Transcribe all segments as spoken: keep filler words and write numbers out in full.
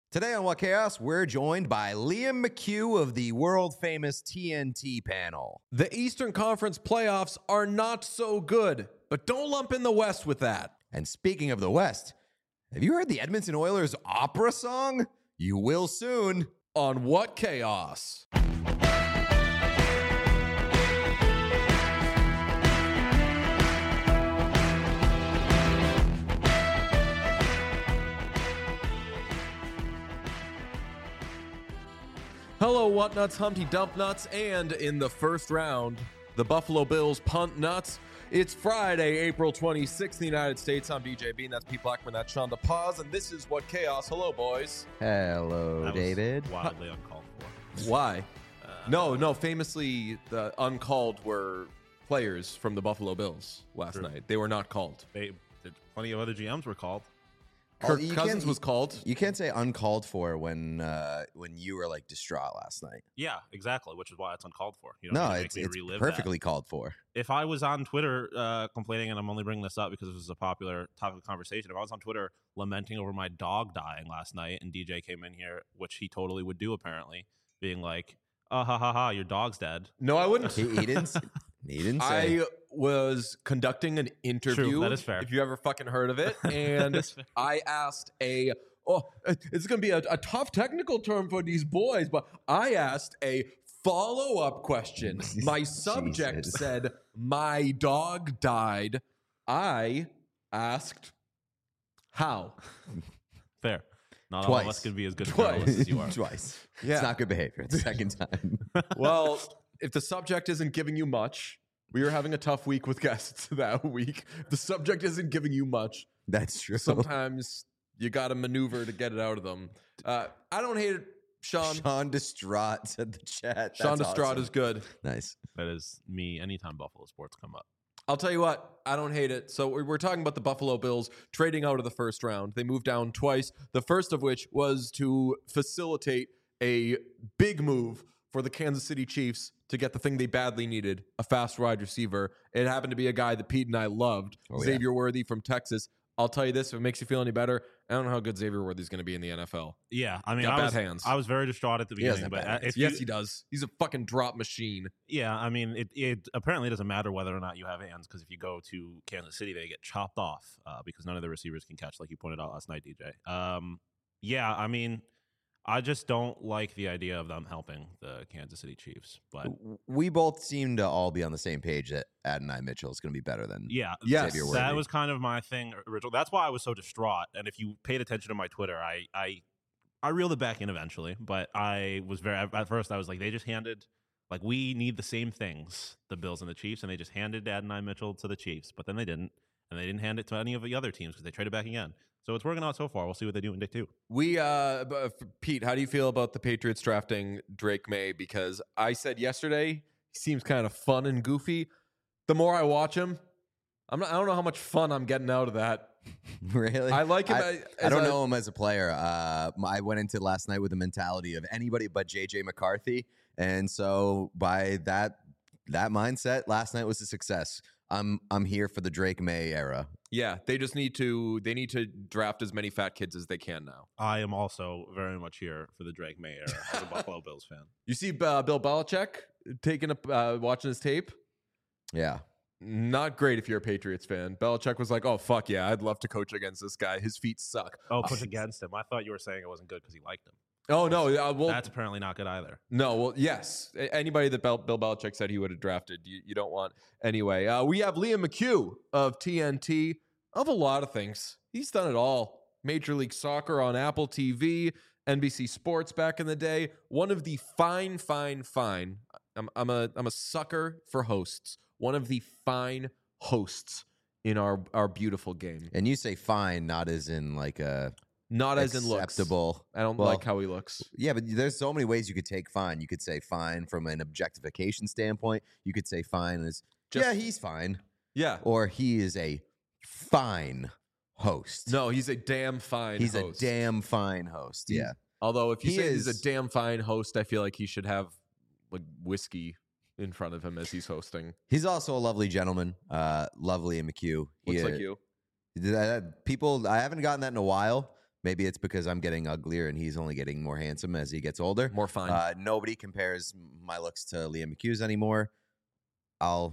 Today on What Chaos, we're joined by Liam McHugh of the world-famous T N T panel. The Eastern Conference playoffs are not so good, but don't lump in the West with that. And speaking of the West, have you heard the Edmonton Oilers opera song? You will soon. On What Chaos. Hello, What Nuts, Humpty Dump Nuts, and in the first round, the Buffalo Bills punt nuts. It's Friday, April twenty-sixth in the United States. I'm D J Bean, that's Pete Blackman, that's Sean DePaz, and this is What Chaos. Hello, boys. Hello, That was David. wildly uncalled for. Why? No, no, famously, the uncalled were players from the Buffalo Bills last True. night. They were not called. They, did- plenty of other G Ms were called. Oh, Kirk you Cousins can't- was called. You can't say uncalled for when uh, when you were like distraught last night. Yeah, exactly, which is why it's uncalled for. You don't No, need to make it's, me it's relive perfectly that. called for. If I was on Twitter uh, complaining, and I'm only bringing this up because this is a popular topic of conversation, if I was on Twitter lamenting over my dog dying last night and D J came in here, which he totally would do apparently, being like, oh, ha, ha, ha, your dog's dead. No, I wouldn't. He, he didn't. He didn't say. I was conducting an interview. that is fair. If you ever fucking heard of it, and That's fair. I asked a oh, it's going to be a, a tough technical term for these boys, but I asked a follow up question. My subject Jesus. said, "My dog died." I asked, "How?" Fair. Not all Twice. of us could be as good Twice. journalists as you are. Twice. Yeah. It's not good behavior. It's the second time. Well, if the subject isn't giving you much, we were having a tough week with guests that week. If the subject isn't giving you much, That's true. sometimes you got to maneuver to get it out of them. Uh, I don't hate it, Sean. Sean Distraught said the chat. Sean That's Distraught awesome. is good. Nice. That is me anytime Buffalo sports come up. I'll tell you what, I don't hate it. So we're we're talking about the Buffalo Bills trading out of the first round. They moved down twice, the first of which was to facilitate a big move for the Kansas City Chiefs to get the thing they badly needed, a fast wide receiver. It happened to be a guy that Pete and I loved, Oh, yeah. Xavier Worthy from Texas. I'll tell you this, if it makes you feel any better, I don't know how good Xavier Worthy is going to be in the N F L. Yeah, I mean, Got I bad was, hands. I was very distraught at the He doesn't beginning, have but bad uh, if Yes, you, he does. He's a fucking drop machine. Yeah, I mean, it, it apparently doesn't matter whether or not you have hands because if you go to Kansas City, they get chopped off uh, because none of the receivers can catch, like you pointed out last night, D J. Um, yeah, I mean, I just don't like the idea of them helping the Kansas City Chiefs. But We both seem to all be on the same page that Adonai Mitchell is going to be better than yeah, Yes, Xavier that Worthy. was kind of my thing original. That's why I was so distraught. And if you paid attention to my Twitter, I I I reeled it back in eventually. But I was very at first I was like, they just handed like we need the same things, the Bills and the Chiefs, and they just handed Adonai Mitchell to the Chiefs, but then they didn't, and they didn't hand it to any of the other teams because they traded back again. So it's working out so far. We'll see what they do in day two. We, uh, b- uh, Pete, how do you feel about the Patriots drafting Drake May? Because I said yesterday he seems kind of fun and goofy. The more I watch him, I'm not, I don't know how much fun I'm getting out of that. Really? I like him. I, as I don't a- know him as a player. Uh, I went into last night with the mentality of anybody but J J McCarthy, and so by that that mindset, last night was a success. I'm I'm here for the Drake May era. Yeah, they just need to. They need to draft as many fat kids as they can now. I am also very much here for the Drake May era as a Buffalo Bills fan. You see, uh, Bill Belichick taking a uh, watching his tape. Yeah. Not great if you're a Patriots fan. Belichick was like, "Oh fuck yeah, I'd love to coach against this guy. His feet suck." Oh, push against him. I thought you were saying it wasn't good because he liked him. Oh no, uh, well, That's apparently not good either. no, well, yes. A- Anybody that Bel- Bill Belichick said he would have drafted, you, you don't want anyway. Uh, we have Liam McHugh of T N T, of a lot of things. He's done it all. Major League Soccer on Apple T V, N B C Sports back in the day. One of the fine, fine, fine. I'm, I'm a I'm a sucker for hosts. One of the fine hosts in our our beautiful game. And you say fine, not as in like a Not as in looks. acceptable. I don't Well, like how he looks. Yeah, but there's so many ways you could take fine. You could say fine from an objectification standpoint. You could say fine as Just- yeah, he's fine, Yeah. or he is a fine host. No, he's a damn fine he's host. a damn fine host. He- Yeah, Although if you He say he's a is- damn fine host, I feel like he should have like whiskey in front of him as he's hosting. he's also a lovely gentleman. Uh, lovely and McHugh. He, Looks uh, like you. that- People, I haven't gotten that in a while. Maybe it's because I'm getting uglier and he's only getting more handsome as he gets older. More fun. Uh, nobody compares my looks to Liam McHugh's anymore. I'll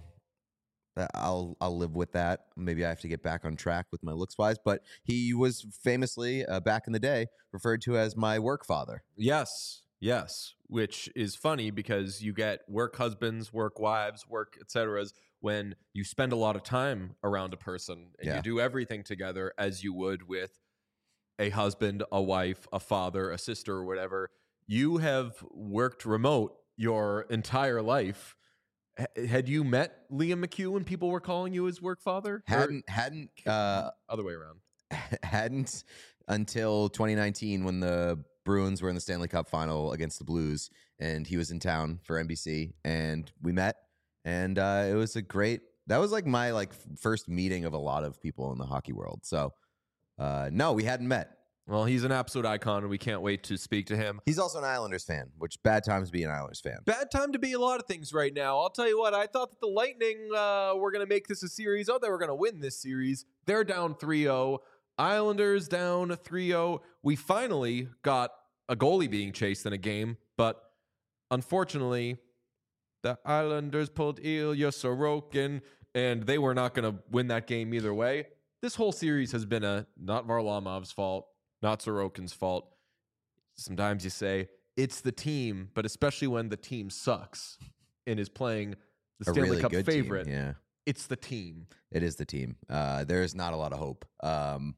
I'll I'll live with that. Maybe I have to get back on track with my looks wise, but he was famously uh, back in the day referred to as my work father. Yes, yes, which is funny because you get work husbands, work wives, work et cetera when you spend a lot of time around a person and Yeah. you do everything together as you would with a husband, a wife, a father, a sister, or whatever. You have worked remote your entire life. H- had you met Liam McHugh when people were calling you his work father? Or Hadn't hadn't uh, other way around? hadn't until twenty nineteen when the Bruins were in the Stanley Cup final against the Blues, and he was in town for N B C, and we met, and uh, it was a great. That was like my like f- first meeting of a lot of people in the hockey world. So, uh, no, we hadn't met. Well, he's an absolute icon, and we can't wait to speak to him. He's also an Islanders fan, which bad times to be an Islanders fan. Bad time to be a lot of things right now. I'll tell you what, I thought that the Lightning uh, were going to make this a series. Oh, they were going to win this series. They're down three oh. Islanders down three oh. We finally got a goalie being chased in a game, but unfortunately, the Islanders pulled Ilya Sorokin, and they were not going to win that game either way. This whole series has been a not Varlamov's fault, not Sorokin's fault. Sometimes you say it's the team, but especially when the team sucks and is playing the A Stanley really Cup good favorite, team, yeah. it's the team. It is the team. Uh, there is not a lot of hope. Um,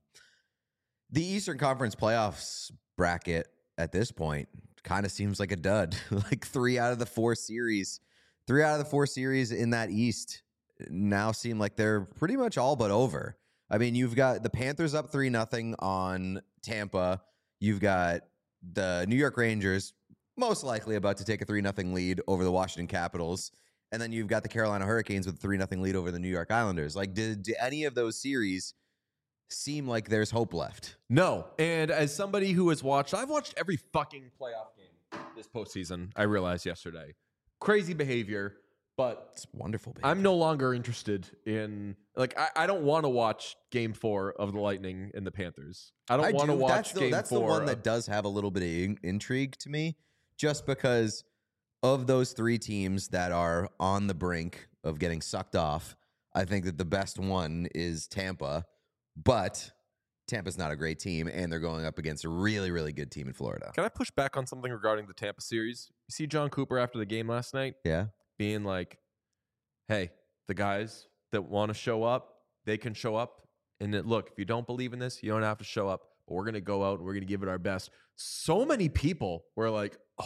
the Eastern Conference playoffs bracket at this point kind of seems like a dud. Like three out of the four series, three out of the four series in that East now seem like they're pretty much all but over. I mean, you've got the Panthers up three nothing on Tampa. You've got the New York Rangers most likely about to take a three nothing lead over the Washington Capitals. And then you've got the Carolina Hurricanes with a three nothing lead over the New York Islanders. Like, did, did any of those series seem like there's hope left? No. And as somebody who has watched, I've watched every fucking playoff game this postseason, I realized yesterday. Crazy behavior, but It's wonderful. Baby. I'm no longer interested in, like, I, I don't want to watch game four of the Lightning and the Panthers. I don't want to watch that's the, game That's four. the one of- that does have a little bit of in- intrigue to me, just because of those three teams that are on the brink of getting sucked off. I think that the best one is Tampa, but Tampa's not a great team, and they're going up against a really, really good team in Florida. Can I push back on something regarding the Tampa series? You see John Cooper after the game last night Yeah. being like, hey, the guys that want to show up, they can show up. And it, look, if you don't believe in this, you don't have to show up. But we're going to go out and we're going to give it our best. So many people were like, oh,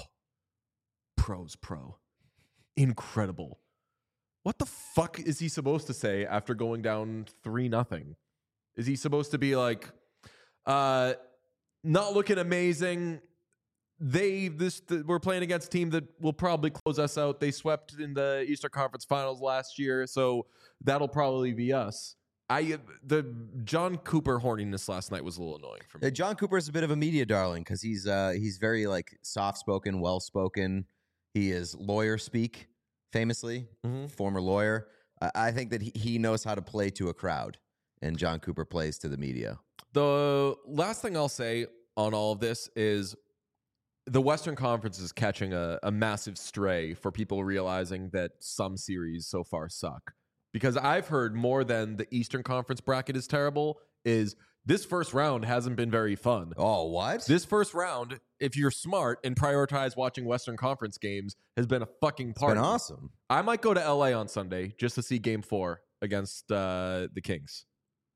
pro's pro. Incredible. What the fuck is he supposed to say after going down three nothing? Is he supposed to be like, uh, not looking amazing? They this the, we're playing against a team that will probably close us out. They swept in the Eastern Conference Finals last year, so that'll probably be us. I the John Cooper horniness last night was a little annoying for me. Uh, John Cooper is a bit of a media darling because he's uh, he's very like soft spoken, well spoken. He is lawyer speak, famously, Mhm. former lawyer. Uh, I think that he, he knows how to play to a crowd, and John Cooper plays to the media. The last thing I'll say on all of this is the Western Conference is catching a, a massive stray for people realizing that some series so far suck. Because I've heard more than the Eastern Conference bracket is terrible, is this first round hasn't been very fun. Oh, what? This first round, if you're smart and prioritize watching Western Conference games, has been a fucking It's party. been awesome. I might go to L A on Sunday just to see game four against uh, the Kings.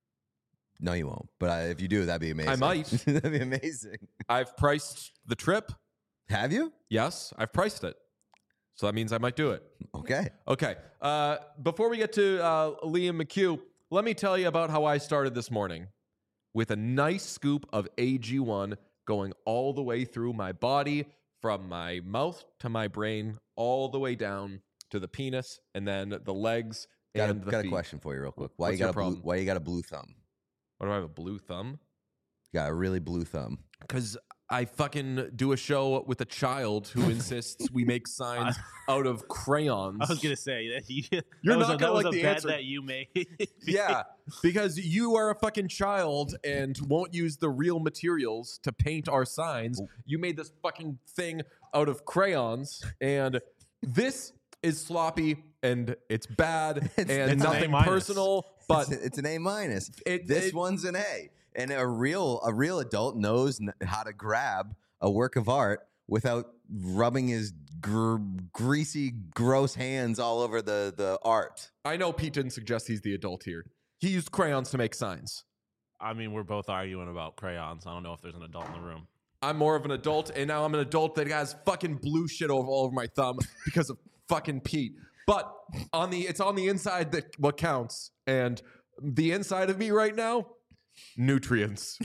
No, you won't. But uh, if you do, that'd be amazing. might. That'd be amazing. I've priced the trip. Have you? Yes, I've priced it. So that means I might do it. Okay. Okay. Uh, before we get to uh, Liam McHugh, let me tell you about how I started this morning with a nice scoop of A G one going all the way through my body, from my mouth to my brain, all the way down to the penis, and then the legs Got, a, and the got a feet. question for you, real quick. Why What's you your got a blue, problem? Why you got a blue thumb? What do I have, a blue thumb? You got a really blue thumb. Because I fucking do a show with a child who insists we make signs out of crayons. I was gonna say that you, You're that was not a, gonna that was like a the bet answer. that you made. Yeah, because you are a fucking child and won't use the real materials to paint our signs. You made this fucking thing out of crayons, and this is sloppy and it's bad It's- and it's an nothing A minus. personal. But it's, it's an A minus. It- This it- one's an A, and a real a real adult knows n- how to grab a work of art without rubbing his gr- greasy, gross hands all over the the art. I know Pete didn't suggest he's the adult here. He used crayons to make signs. I mean, we're both arguing about crayons. I don't know if there's an adult in the room. I'm more of an adult, and now I'm an adult that has fucking blue shit over all over my thumb because of fucking Pete. But on the it's on the inside that what counts, and the inside of me right now, nutrients,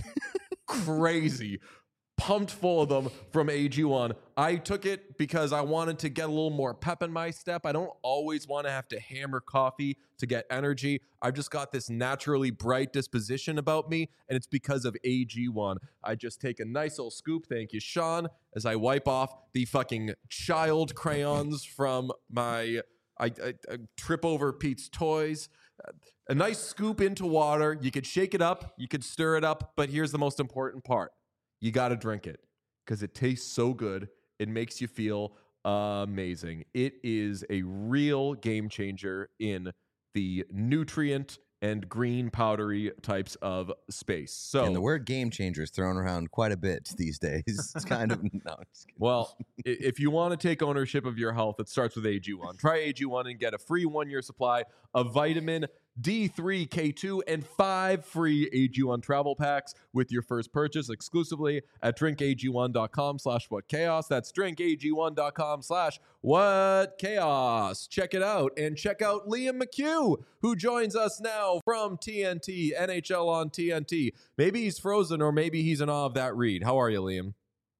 crazy, pumped full of them from A G one. I took it because I wanted to get a little more pep in my step. I don't always want to have to hammer coffee to get energy. I've just got this naturally bright disposition about me, and it's because of A G one. I just take a nice little scoop, thank you, Sean, as I wipe off the fucking child crayons from my... I, I, I trip over Pete's toys. Uh, a nice scoop into water. You could shake it up. You could stir it up. But here's the most important part. You got to drink it because it tastes so good. It makes you feel amazing. It is a real game changer in the nutrient and green powdery types of space. So, And the word game changer is thrown around quite a bit these days. It's kind of no. I'm just kidding. well, i- if you want to take ownership of your health, it starts with A G one. Try A G one and get a free one-year supply of vitamin D three, K two, and five free A G one travel packs with your first purchase exclusively at drinkag1.com slash what chaos. That's drinkag1.com slash what chaos. Check it out. And check out Liam McHugh, who joins us now from T N T, N H L on T N T. Maybe he's frozen or maybe he's in awe of that read. How are you, Liam?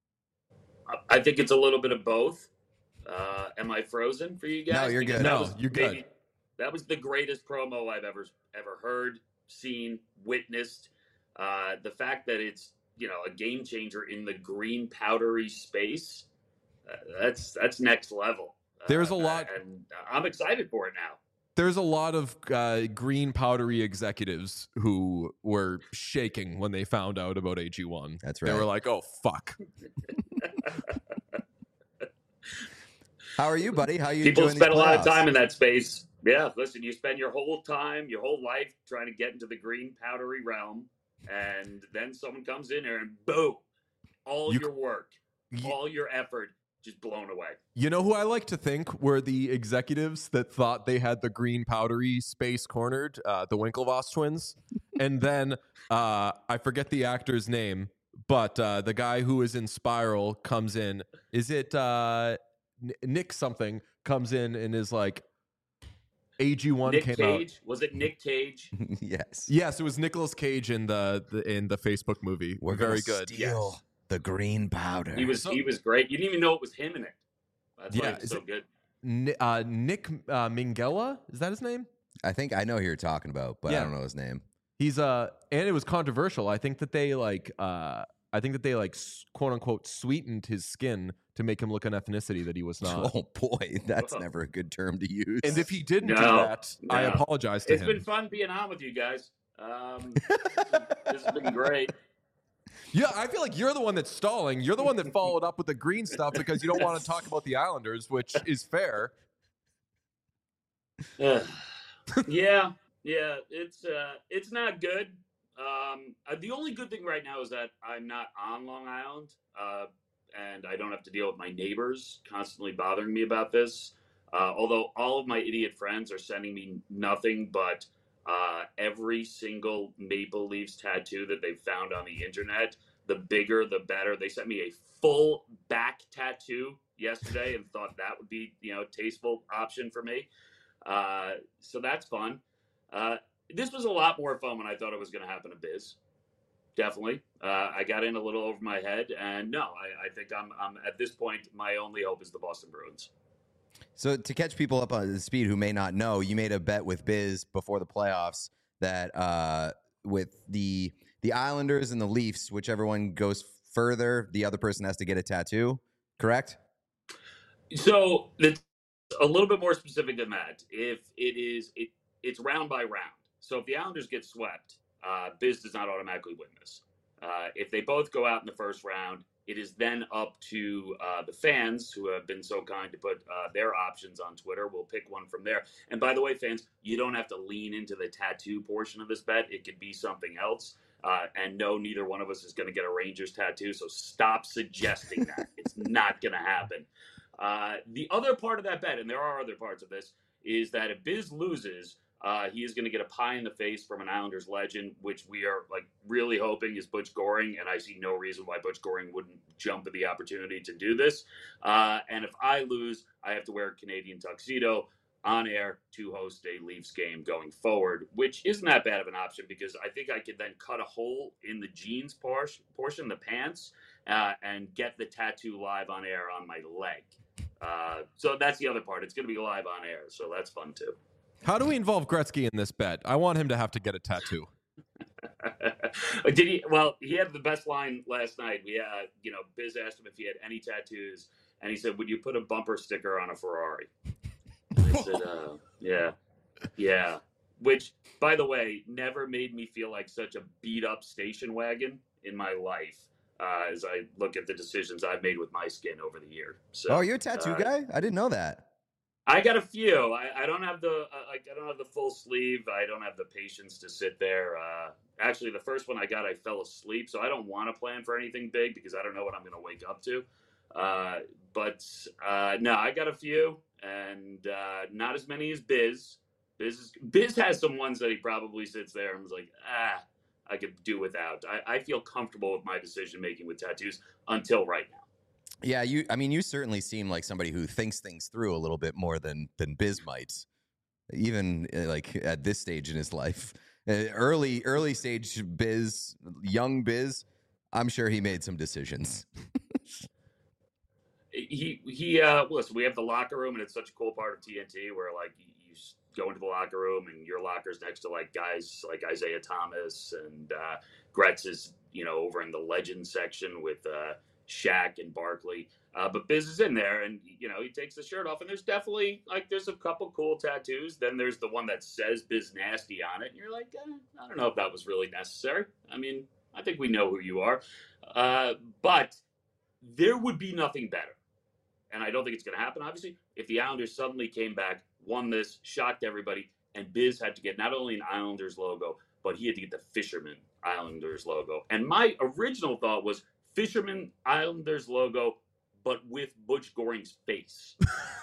I think it's a little bit of both. Uh, am I frozen for you guys? No, you're Because good. that No, was you're good. maybe- That was the greatest promo I've ever ever heard, seen, witnessed. Uh, the fact that it's you know a game changer in the green powdery space, uh, that's that's next level. Uh, There's a lot- and I'm excited for it now. There's a lot of uh, green powdery executives who were shaking when they found out about A G one. That's They right. were like, "Oh fuck!" How are you, buddy? How are you People enjoying spend a these lot of playoffs? time in that space. Yeah, listen, you spend your whole time, your whole life trying to get into the green powdery realm, and then someone comes in there and boom, all You- your work, Y- all your effort just blown away. You know who I like to think were the executives that thought they had the green powdery space cornered, uh, the Winklevoss twins, and then uh, I forget the actor's name, but uh, the guy who is in Spiral comes in. Is it uh, N- Nick something? Comes in and is like, A G one Nick came Cage, out. was it Nick Cage? Yes. Yes, it was Nicolas Cage in the, the in the Facebook movie. We're very gonna good. Steal Yes. the green powder. He was So- he was great. You didn't even know it was him in it. That's why Yeah, he was is so it- good. Ni- uh, Nick uh, Minghella, is that his name? I think I know who you're talking about, but Yeah. I don't know his name. He's uh, and it was controversial. I think that they like uh, I think that they like s- quote unquote sweetened his skin to make him look an ethnicity that he was not. Oh boy, that's Oh. never a good term to use. And if he didn't do No, that, I no. apologize to It's him. been fun being on with you guys. Um, this has been great. Yeah, I feel like you're the one that's stalling. You're the one that followed up with the green stuff because you don't want to talk about the Islanders, which is fair. Uh, yeah, yeah, it's uh, it's not good. Um, uh, the only good thing right now is that I'm not on Long Island, uh, and I don't have to deal with my neighbors constantly bothering me about this. Uh, although all of my idiot friends are sending me nothing but uh, every single Maple Leafs tattoo that they've found on the internet. The bigger, the better. They sent me a full back tattoo yesterday and thought that would be, you know, a tasteful option for me. Uh, so that's fun. Uh, this was a lot more fun when I thought it was going to happen to Biz. Definitely. Uh, I got in a little over my head, and no, I, I think I'm, I'm at this point, my only hope is the Boston Bruins. So to catch people up on the speed who may not know, you made a bet with Biz before the playoffs that uh, with the the Islanders and the Leafs, whichever one goes further, the other person has to get a tattoo, correct? So it's a little bit more specific than that. If it is, it it's round by round. So if the Islanders get swept, uh, Biz does not automatically win this. Uh, if they both go out in the first round, it is then up to uh, the fans who have been so kind to put uh, their options on Twitter. We'll pick one from there. And by the way, fans, you don't have to lean into the tattoo portion of this bet. It could be something else. Uh, and no, neither one of us is going to get a Rangers tattoo. So stop suggesting that. It's not going to happen. Uh, the other part of that bet, and there are other parts of this, is that if Biz loses, uh, he is going to get a pie in the face from an Islanders legend, which we are like really hoping is Butch Goring, and I see no reason why Butch Goring wouldn't jump at the opportunity to do this. Uh, and if I lose, I have to wear a Canadian tuxedo on air to host a Leafs game going forward, which isn't that bad of an option because I think I could then cut a hole in the jeans portion, portion the pants, uh, and get the tattoo live on air on my leg. Uh, so that's the other part. It's going to be live on air, so that's fun too. How do we involve Gretzky in this bet? I want him to have to get a tattoo. Did he? Well, he had the best line last night. We, uh, you know, Biz asked him if he had any tattoos, and he said, "Would you put a bumper sticker on a Ferrari?" I said, uh, "Yeah, yeah." Which, by the way, never made me feel like such a beat up station wagon in my life. Uh, as I look at the decisions I've made with my skin over the year. So, oh, you're a tattoo uh, guy? I didn't know that. I got a few. I, I don't have the uh, like I don't have the full sleeve. I don't have the patience to sit there. Uh, actually, the first one I got, I fell asleep, so I don't want to plan for anything big because I don't know what I'm going to wake up to. Uh, but uh, no, I got a few, and uh, not as many as Biz. Biz is, Biz has some ones that he probably sits there and was like, ah, I could do without. I, I feel comfortable with my decision making with tattoos until right now. Yeah, you. I mean, you certainly seem like somebody who thinks things through a little bit more than than Biz might, even uh, like at this stage in his life. Uh, early, early stage Biz, young Biz. I'm sure he made some decisions. he he. Uh, listen, we have the locker room, and it's such a cool part of T N T where like you, you go into the locker room, and your locker's next to like guys like Isaiah Thomas and uh, Gretz is you know over in the legend section with. Uh, Shaq and Barkley, uh, but Biz is in there, and you know he takes the shirt off, and there's definitely like there's a couple cool tattoos. Then there's the one that says Biz Nasty on it, and you're like, eh, I don't know if that was really necessary. I mean, I think we know who you are, uh, but there would be nothing better, and I don't think it's going to happen. Obviously, if the Islanders suddenly came back, won this, shocked everybody, and Biz had to get not only an Islanders logo, but he had to get the Fisherman Islanders logo. And my original thought was. Fisherman Islanders logo, but with Butch Goring's face.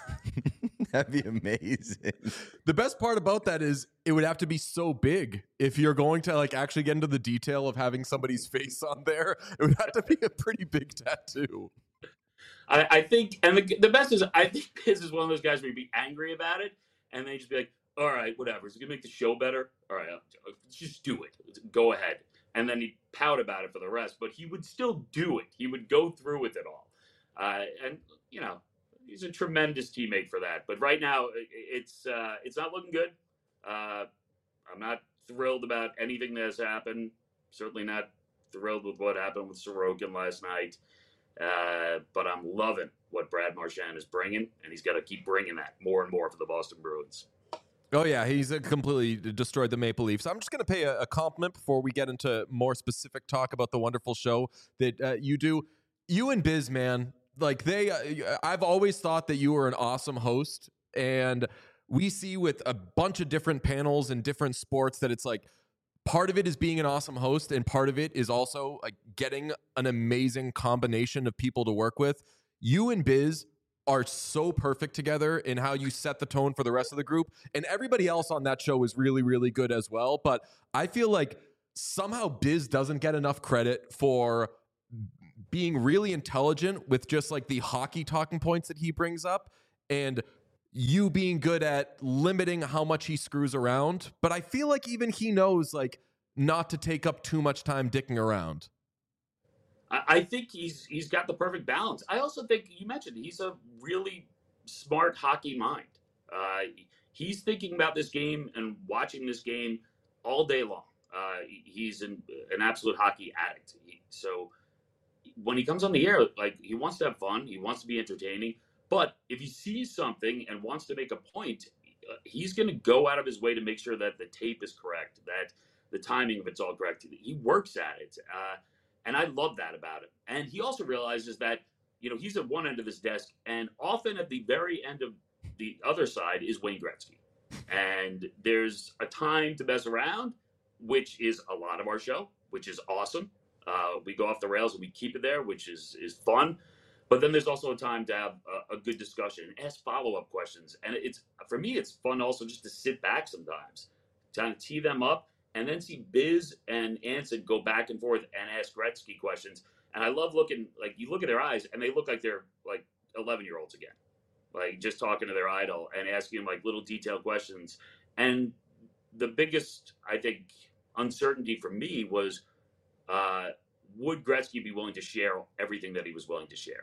That'd be amazing. The best part about that is it would have to be so big. If you're going to like actually get into the detail of having somebody's face on there, it would have to be a pretty big tattoo. I, I think, and the, the best is, I think Biz is one of those guys where you'd be angry about it, and then just be like, all right, whatever. Is it going to make the show better? All right, just do it. Go ahead. And then he'd pout about it for the rest, but he would still do it. He would go through with it all. Uh, and, you know, he's a tremendous teammate for that. But right now, it's uh, it's not looking good. Uh, I'm not thrilled about anything that has happened. Certainly not thrilled with what happened with Sorokin last night. Uh, but I'm loving what Brad Marchand is bringing, and he's got to keep bringing that more and more for the Boston Bruins. Oh, yeah, he's uh, completely destroyed the Maple Leafs. I'm just going to pay a, a compliment before we get into more specific talk about the wonderful show that uh, you do. You and Biz, man, like they, uh, I've always thought that you were an awesome host. And we see with a bunch of different panels and different sports that it's like part of it is being an awesome host. And part of it is also like getting an amazing combination of people to work with. You and Biz are so perfect together in how you set the tone for the rest of the group. And everybody else on that show is really, really good as well. But I feel like somehow Biz doesn't get enough credit for being really intelligent with just like the hockey talking points that he brings up and you being good at limiting how much he screws around. But I feel like even he knows like not to take up too much time dicking around. I think he's he's got the perfect balance. I also think you mentioned he's a really smart hockey mind. Uh, he's thinking about this game and watching this game all day long. Uh, he's an, an absolute hockey addict. He, so when he comes on the air, like he wants to have fun, he wants to be entertaining. But if he sees something and wants to make a point, uh, he's going to go out of his way to make sure that the tape is correct, that the timing of it's all correct. He works at it, uh, and I love that about him. And he also realizes that you know he's at one end of this desk, and often at the very end of the other side is Wayne Gretzky. And there's a time to mess around, which is a lot of our show, which is awesome. Uh, we go off the rails and we keep it there, which is is fun. But then there's also a time to have a, a good discussion and ask follow-up questions. And it's for me, it's fun also just to sit back sometimes, kind of tee them up, and then see Biz and Anson go back and forth and ask Gretzky questions. And I love looking, like you look at their eyes and they look like they're like eleven-year-olds again, like just talking to their idol and asking them like little detailed questions. And the biggest, I think, uncertainty for me was, uh, would Gretzky be willing to share everything that he was willing to share?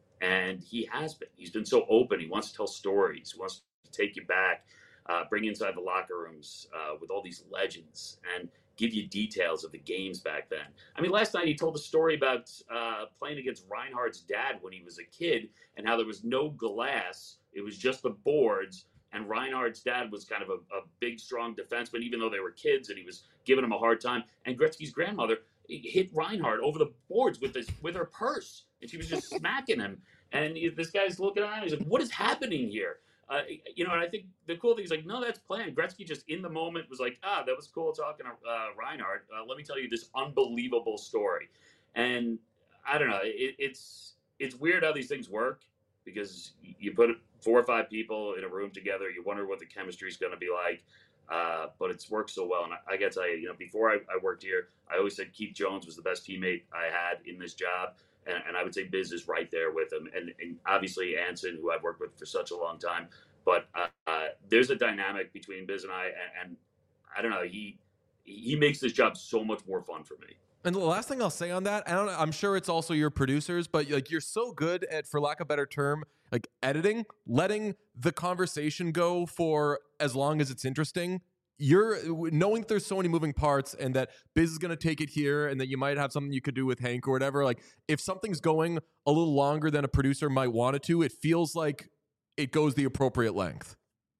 And he has been. He's been so open. He wants to tell stories. He wants to take you back, uh, bring you inside the locker rooms uh, with all these legends and give you details of the games back then. I mean, last night he told a story about uh, playing against Reinhardt's dad when he was a kid and how there was no glass. It was just the boards. And Reinhardt's dad was kind of a, a big, strong defenseman, even though they were kids, and he was giving him a hard time. And Gretzky's grandmother hit Reinhardt over the boards with this with her purse, and she was just smacking him. And he, this guy's looking at him. He's like, "What is happening here?" Uh, you know, and I think the cool thing is like, no, that's planned. Gretzky just in the moment was like, "Ah, that was cool talking to uh, Reinhardt. Uh, let me tell you this unbelievable story." And I don't know, it, it's it's weird how these things work because you put four or five people in a room together, you wonder what the chemistry is going to be like. Uh, but it's worked so well. And I, I got to tell you, you know, before I, I worked here, I always said Keith Jones was the best teammate I had in this job. And, and I would say Biz is right there with him. And, and obviously Anson, who I've worked with for such a long time. But uh, uh, there's a dynamic between Biz and I. And, and I don't know, he he makes this job so much more fun for me. And the last thing I'll say on that, I don't know, I'm sure it's also your producers, but like you're so good at, for lack of a better term, like editing, letting the conversation go for as long as it's interesting. You're knowing that there's so many moving parts and that Biz is going to take it here and that you might have something you could do with Hank or whatever. Like if something's going a little longer than a producer might want it to, it feels like it goes the appropriate length.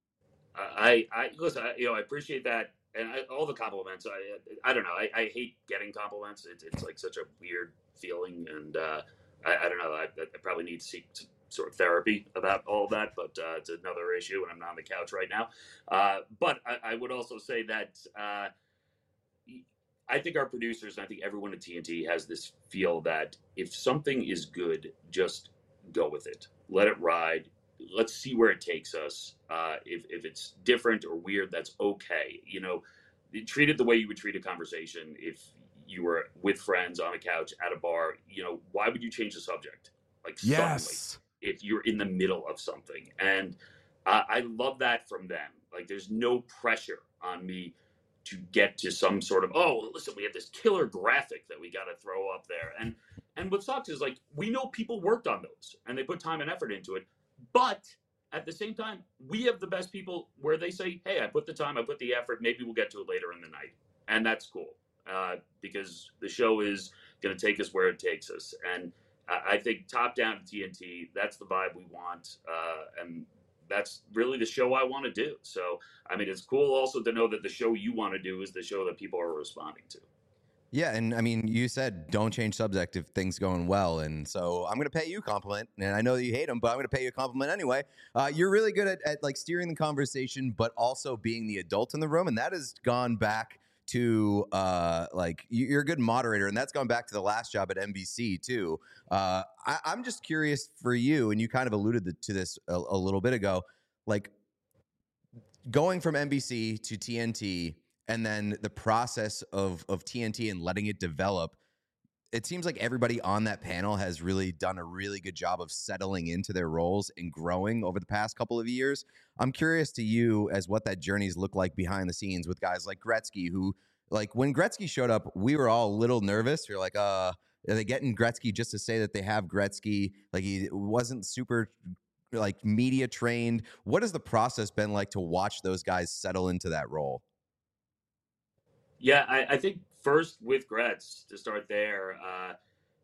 I, I listen, I, you know, I appreciate that. And I, all the compliments, I, I don't know. I, I hate getting compliments. It's, it's like such a weird feeling, and uh, I, I don't know. I, I probably need to seek some sort of therapy about all of that, but uh, it's another issue, and I'm not on the couch right now. Uh, but I, I would also say that uh, I think our producers, and I think everyone at T N T has this feel that if something is good, just go with it. Let it ride. Let's see where it takes us. Uh, if, if it's different or weird, that's okay. You know, treat it the way you would treat a conversation. If you were with friends on a couch at a bar, you know, why would you change the subject? Like yes. suddenly, if you're in the middle of something. And uh, I love that from them. Like there's no pressure on me to get to some sort of, oh, listen, we have this killer graphic that we got to throw up there. And, and what sucks is like, we know people worked on those and they put time and effort into it. But at the same time, we have the best people where they say, hey, I put the time, I put the effort, maybe we'll get to it later in the night. And that's cool uh, because the show is going to take us where it takes us. And I, I think top down to T N T, that's the vibe we want. Uh, and that's really the show I want to do. So, I mean, it's cool also to know that the show you want to do is the show that people are responding to. Yeah, and I mean, you said don't change subject if things going well, and so I'm going to pay you a compliment, and I know that you hate them, but I'm going to pay you a compliment anyway. Uh, you're really good at, at like steering the conversation, but also being the adult in the room, and that has gone back to uh, like you're a good moderator, and that's gone back to the last job at N B C too. Uh, I, I'm just curious for you, and you kind of alluded to this a, a little bit ago, like going from N B C to T N T. And then the process of, of T N T and letting it develop, it seems like everybody on that panel has really done a really good job of settling into their roles and growing over the past couple of years. I'm curious to you as what that journey's looked like behind the scenes with guys like Gretzky, who, like, when Gretzky showed up, we were all a little nervous. We were like, uh, are they getting Gretzky just to say that they have Gretzky? Like, he wasn't super, like, media trained. What has the process been like to watch those guys settle into that role? Yeah, I, I think first with Gretz, to start there, uh,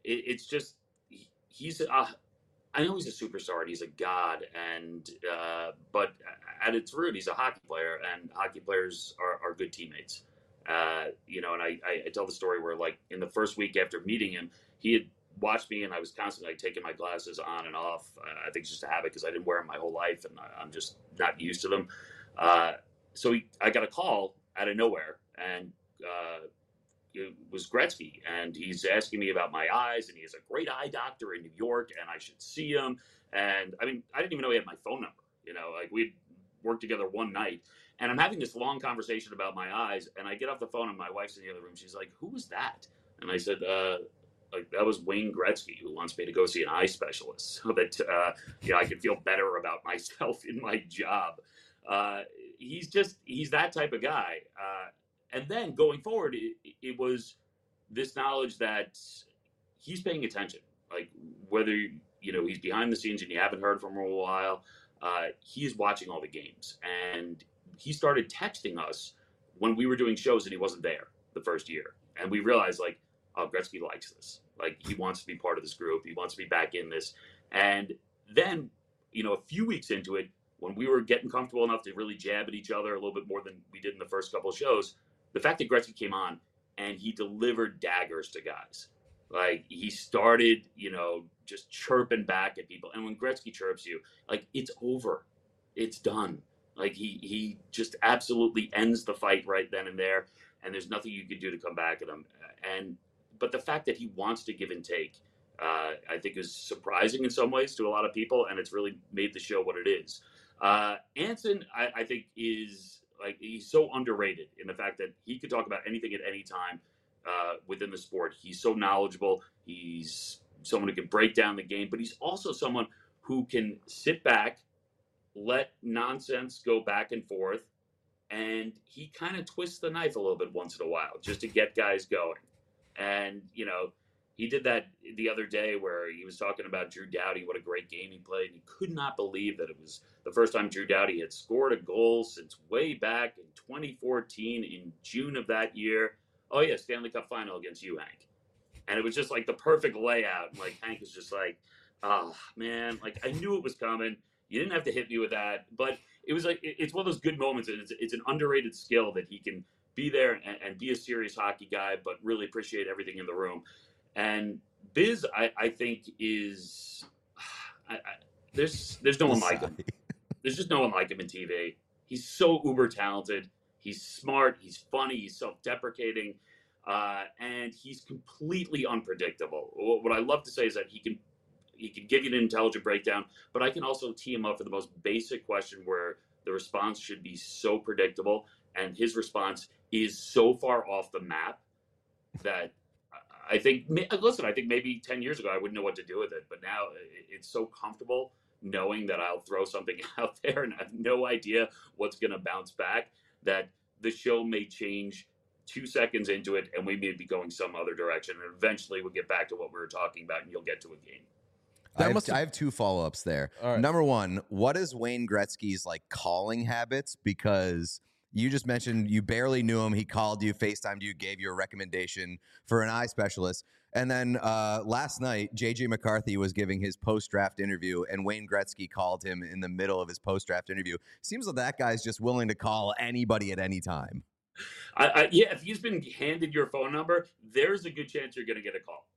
it, it's just he, he's uh, I know he's a superstar and he's a god, and uh, but at its root, he's a hockey player, and hockey players are, are good teammates. Uh, you know, and I, I, I tell the story where, like, in the first week after meeting him, he had watched me, and I was constantly like taking my glasses on and off. Uh, I think it's just a habit because I didn't wear them my whole life, and I, I'm just not used to them. Uh, so he, I got a call out of nowhere, and uh, it was Gretzky, and he's asking me about my eyes, and he has a great eye doctor in New York, and I should see him. And I mean, I didn't even know he had my phone number. You know, like we'd worked together one night, and I'm having this long conversation about my eyes, and I get off the phone, and my wife's in the other room. She's like, "Who was that?" And I said, uh, like, that was Wayne Gretzky, who wants me to go see an eye specialist so that uh, you know I can feel better about myself in my job. Uh, he's just he's that type of guy. Uh, and then going forward, it, it was this knowledge that he's paying attention. Like whether you know he's behind the scenes and you haven't heard from him in a while, uh, he's watching all the games, and he started texting us when we were doing shows and he wasn't there the first year, and we realized like, oh, Gretzky likes this. Like he wants to be part of this group. He wants to be back in this. And then, you know, a few weeks into it, when we were getting comfortable enough to really jab at each other a little bit more than we did in the first couple of shows, the fact that Gretzky came on and he delivered daggers to guys. Like he started, you know, just chirping back at people. And when Gretzky chirps you, like it's over. It's done. Like he he just absolutely ends the fight right then and there. And there's nothing you can do to come back at him. And but the fact that he wants to give and take, uh, I think is surprising in some ways to a lot of people, and it's really made the show what it is. Uh, Anson, I, I think, is like he's so underrated in the fact that he could talk about anything at any time uh, within the sport. He's so knowledgeable. He's someone who can break down the game, but he's also someone who can sit back, let nonsense go back and forth, and he kind of twists the knife a little bit once in a while just to get guys going. And, you know, he did that the other day where he was talking about Drew Doughty, what a great game he played. And he could not believe that it was the first time Drew Doughty had scored a goal since way back in twenty fourteen in June of that year. Oh, yeah, Stanley Cup final against you, Hank. And it was just like the perfect layout. And like Hank was just like, oh, man, like I knew it was coming. You didn't have to hit me with that. But it was like, it's one of those good moments. And it's, it's an underrated skill that he can be there and, and be a serious hockey guy, but really appreciate everything in the room. And Biz, I, I think is I, I, there's there's no one like him. There's just no one like him in T V. He's so uber talented. He's smart. He's funny. He's self-deprecating, uh, and he's completely unpredictable. What I love to say is that he can he can give you an intelligent breakdown, but I can also tee him up for the most basic question where the response should be so predictable, and his response is so far off the map that I think, listen, I think maybe ten years ago I wouldn't know what to do with it, but now it's so comfortable knowing that I'll throw something out there and I have no idea what's going to bounce back, that the show may change two seconds into it and we may be going some other direction, and eventually we'll get back to what we were talking about and you'll get to a game. I have, I have two follow-ups there. Right. Number one, what is Wayne Gretzky's like calling habits? Because you just mentioned you barely knew him. He called you, FaceTimed you, gave you a recommendation for an eye specialist. And then uh, last night, J J McCarthy was giving his post-draft interview, and Wayne Gretzky called him in the middle of his post-draft interview. Seems like that guy's just willing to call anybody at any time. I, I, yeah, if he's been handed your phone number, there's a good chance you're going to get a call.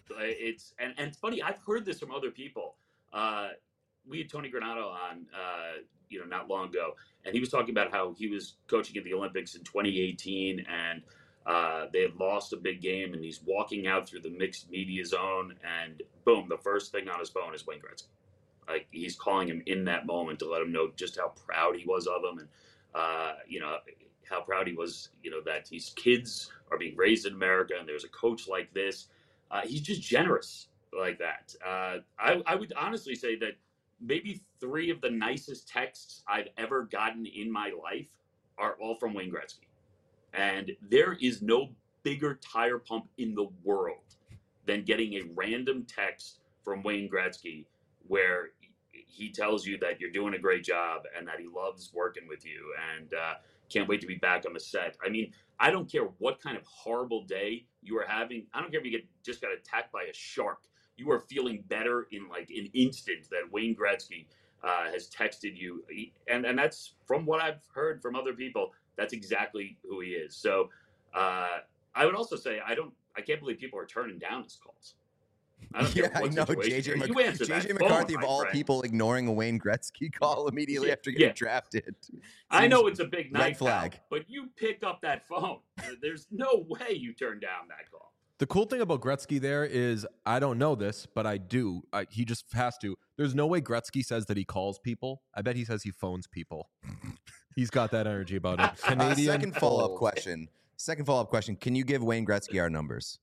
It's and, and it's funny. I've heard this from other people. Uh, we had Tony Granato on, uh, you know, not long ago, and he was talking about how he was coaching at the Olympics in twenty eighteen, and uh, they had lost a big game, and he's walking out through the mixed media zone, and boom, the first thing on his phone is Wayne Gretzky. Like he's calling him in that moment to let him know just how proud he was of him, and uh, you know how proud he was, you know, that his kids are being raised in America, and there's a coach like this. Uh, he's just generous like that. Uh, I, I would honestly say that maybe three of the nicest texts I've ever gotten in my life are all from Wayne Gretzky. And there is no bigger tire pump in the world than getting a random text from Wayne Gretzky where he tells you that you're doing a great job and that he loves working with you and uh, can't wait to be back on the set. I mean, I don't care what kind of horrible day you are having. I don't care if you get just got attacked by a shark. You are feeling better in like an instant that Wayne Gretzky uh, has texted you. And, and that's from what I've heard from other people. That's exactly who he is. So uh, I would also say, I don't, I can't believe people are turning down his calls. I don't yeah, care what I know. situation J J, you're in. Mc- You answer J J that McCarthy, phone, of my all friend. people, ignoring a Wayne Gretzky call immediately Yeah, after getting yeah. drafted. I know Seems- it's a big red night, flag. pal, but you pick up that phone. There's no way you turn down that call. The cool thing about Gretzky there is I don't know this, but I do. I, he just has to. There's no way Gretzky says that he calls people. I bet he says he phones people. He's got that energy about him. Uh, Canadian second follow-up Fold. question. Second follow-up question. Can you give Wayne Gretzky our numbers?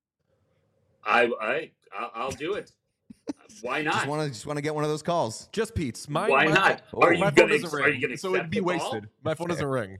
I, I, I'll, I'll do it. Why not? Just want to just want to get one of those calls. Just Pete's. My, Why my, not? Oh, Are you my going phone doesn't to? ring, Are you going to? so it'd be wasted. My phone doesn't ring.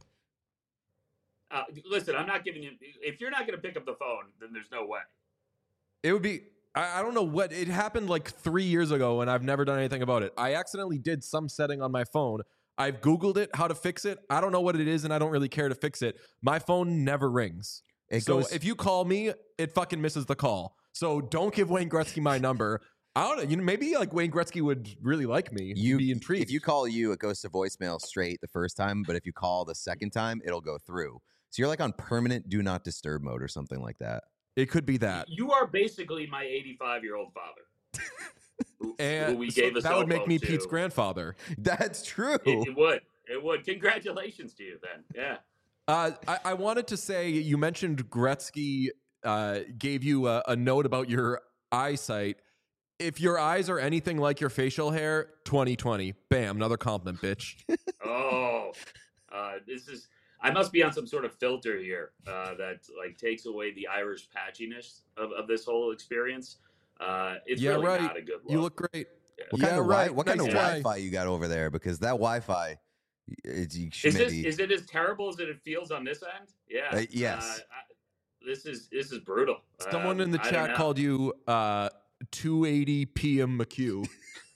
Uh, listen, I'm not giving you. If you're not going to pick up the phone, then there's no way. It would be. I, I don't know what. It happened like three years ago, and I've never done anything about it. I accidentally did some setting on my phone. I've Googled it, how to fix it. I don't know what it is, and I don't really care to fix it. My phone never rings. It so goes. if you call me, it fucking misses the call. So don't give Wayne Gretzky my number. I don't know. You know, maybe like Wayne Gretzky would really like me. You be intrigued. If you call you, it goes to voicemail straight the first time, but if you call the second time, it'll go through. So you're like on permanent do not disturb mode or something like that. it could be that. You are basically my eighty-five-year-old father, who, And who we so gave a that cell would make phone me to. Pete's grandfather. That's true. It, it would. It would. Congratulations to you, then. Yeah. Uh, I, I wanted to say you mentioned Gretzky uh, gave you a, a note about your eyesight. If your eyes are anything like your facial hair, twenty twenty, bam, another compliment, bitch. Oh, uh, this is. I must be on some sort of filter here uh, that like takes away the Irish patchiness of, of this whole experience. Uh, it's Yeah, really right. not a good look. You look great. What Yeah, kind of right. wi- What kind Nice of guy. Wi-Fi you got over there? Because that Wi-Fi, it's, you should Is this maybe. is it as terrible as it feels on this end? Yeah. Uh, yes. Uh, I, this is this is brutal. Someone Um, in the I don't chat know. called you uh, two eighty P M McHugh.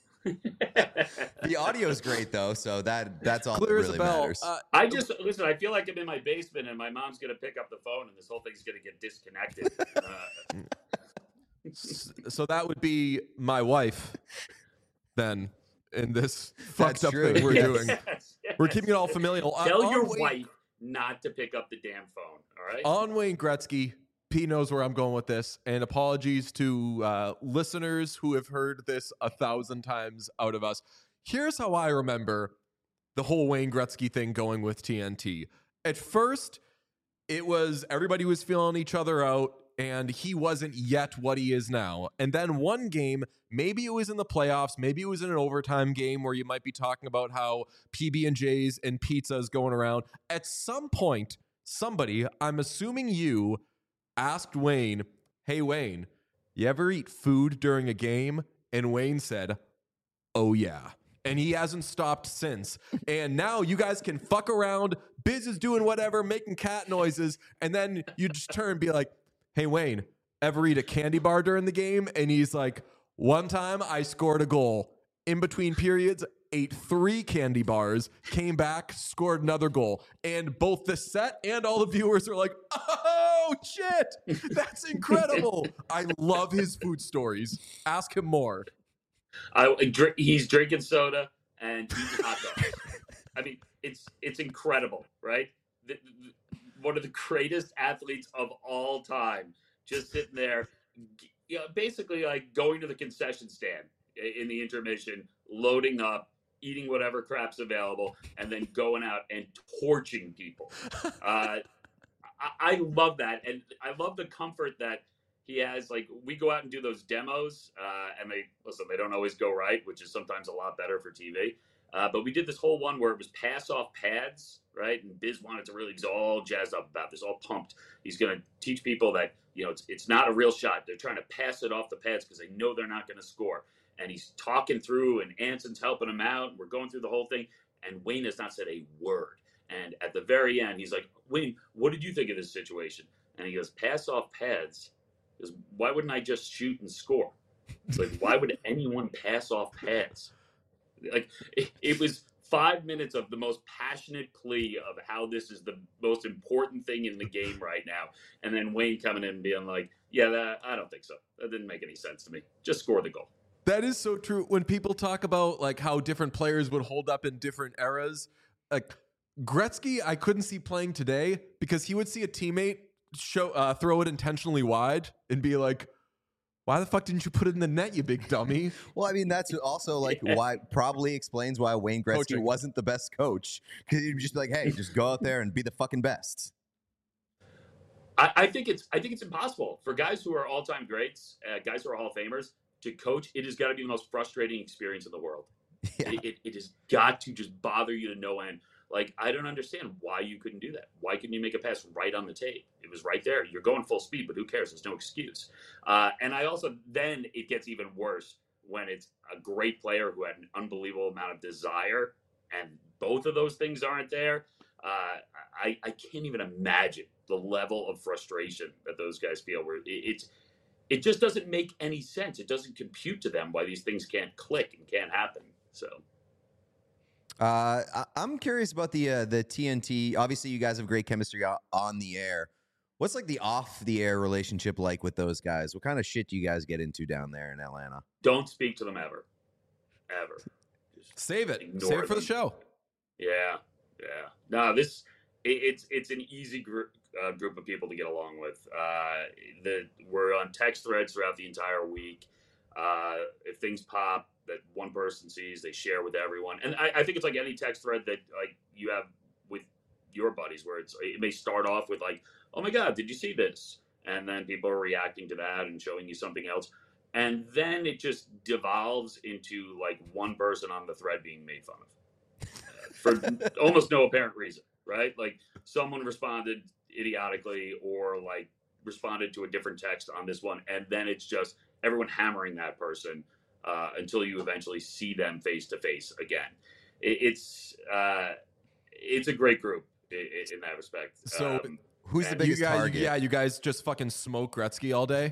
The audio's great though, so that that's all Clear that as a really bell. matters. Uh, I just listen. I feel like I'm in my basement and my mom's gonna pick up the phone and this whole thing's gonna get disconnected. Uh, s- so that would be my wife then in this fucked That's up true. thing we're Yes. doing. yes, We're yes. keeping it all familial. Uh, Tell on your Wayne- wife not to pick up the damn phone. All right. On Wayne Gretzky, P knows where I'm going with this. And apologies to uh, listeners who have heard this a thousand times out of us. Here's how I remember the whole Wayne Gretzky thing going with T N T. At first, it was everybody was feeling each other out, and he wasn't yet what he is now. And then one game, maybe it was in the playoffs, maybe it was in an overtime game where you might be talking about how P B and J's and pizzas going around. At some point, somebody, I'm assuming you, asked Wayne, "Hey Wayne, you ever eat food during a game?" And Wayne said, "Oh yeah." And he hasn't stopped since. And now you guys can fuck around. Biz is doing whatever, making cat noises. And then you just turn and be like, "Hey, Wayne, ever eat a candy bar during the game?" And he's like, "One time I scored a goal. In between periods, ate three candy bars, came back, scored another goal." And both the set and all the viewers are like, "Oh, shit. That's incredible." I love his food stories. Ask him more. I, drink, he's drinking soda and eating hot dogs. I mean, it's it's incredible, right? The, the, one of the greatest athletes of all time, just sitting there, you know, basically like going to the concession stand in the intermission, loading up, eating whatever crap's available, and then going out and torching people. Uh, I, I love that, and I love the comfort that he has. Like, we go out and do those demos, uh, and they listen. They don't always go right, which is sometimes a lot better for T V. Uh, but we did this whole one where it was pass off pads, right? And Biz wanted to really, he's all jazzed up about this, all pumped. He's going to teach people that, you know, it's it's not a real shot. They're trying to pass it off the pads because they know they're not going to score. And he's talking through, and Anson's helping him out. And we're going through the whole thing, and Wayne has not said a word. And at the very end, he's like, "Wayne, what did you think of this situation?" And he goes, "Pass off pads. Because why wouldn't I just shoot and score? It's like, why would anyone pass off pads?" Like, it, it was five minutes of the most passionate plea of how this is the most important thing in the game right now, and then Wayne coming in and being like, "Yeah, that, I don't think so. That didn't make any sense to me. Just score the goal." That is so true. When people talk about like how different players would hold up in different eras, like Gretzky, I couldn't see playing today because he would see a teammate show uh, throw it intentionally wide and be like, "Why the fuck didn't you put it in the net, you big dummy?" Well, I mean, that's also like why probably explains why Wayne Gretzky Coaching. wasn't the best coach, because he'd just be like, "Hey, just go out there and be the fucking best." I, I think it's I think it's impossible for guys who are all time greats, uh, guys who are Hall of Famers, to coach. It has got to be the most frustrating experience in the world. Yeah. It, it, it has got to just bother you to no end. Like, I don't understand why you couldn't do that. Why couldn't you make a pass right on the tape? It was right there. You're going full speed, but who cares? There's no excuse. Uh, and I also, then it gets even worse when it's a great player who had an unbelievable amount of desire, and both of those things aren't there. Uh, I, I can't even imagine the level of frustration that those guys feel. Where it, it's, it just doesn't make any sense. It doesn't compute to them why these things can't click and can't happen. So. Uh, I- I'm curious about the uh, the T N T. Obviously, you guys have great chemistry o- on the air. What's like the off the air relationship like with those guys? What kind of shit do you guys get into down there in Atlanta? Don't speak to them ever. Ever. Just Save it. ignore Save it for the them. show. Yeah, yeah. No, this it, it's it's an easy group uh, group of people to get along with. Uh, the we're on text threads throughout the entire week. Uh, if things pop that one person sees, they share with everyone. And I, I think it's like any text thread that like you have with your buddies, where it's it may start off with like, "Oh my God, did you see this?" And then people are reacting to that and showing you something else. And then it just devolves into like one person on the thread being made fun of for almost no apparent reason, right? Like someone responded idiotically or like responded to a different text on this one, and then it's just everyone hammering that person uh, until you eventually see them face to face again. It, it's uh, it's a great group in, in that respect. So um, Who's the and biggest you guys, target? yeah, you guys just fucking smoke Gretzky all day.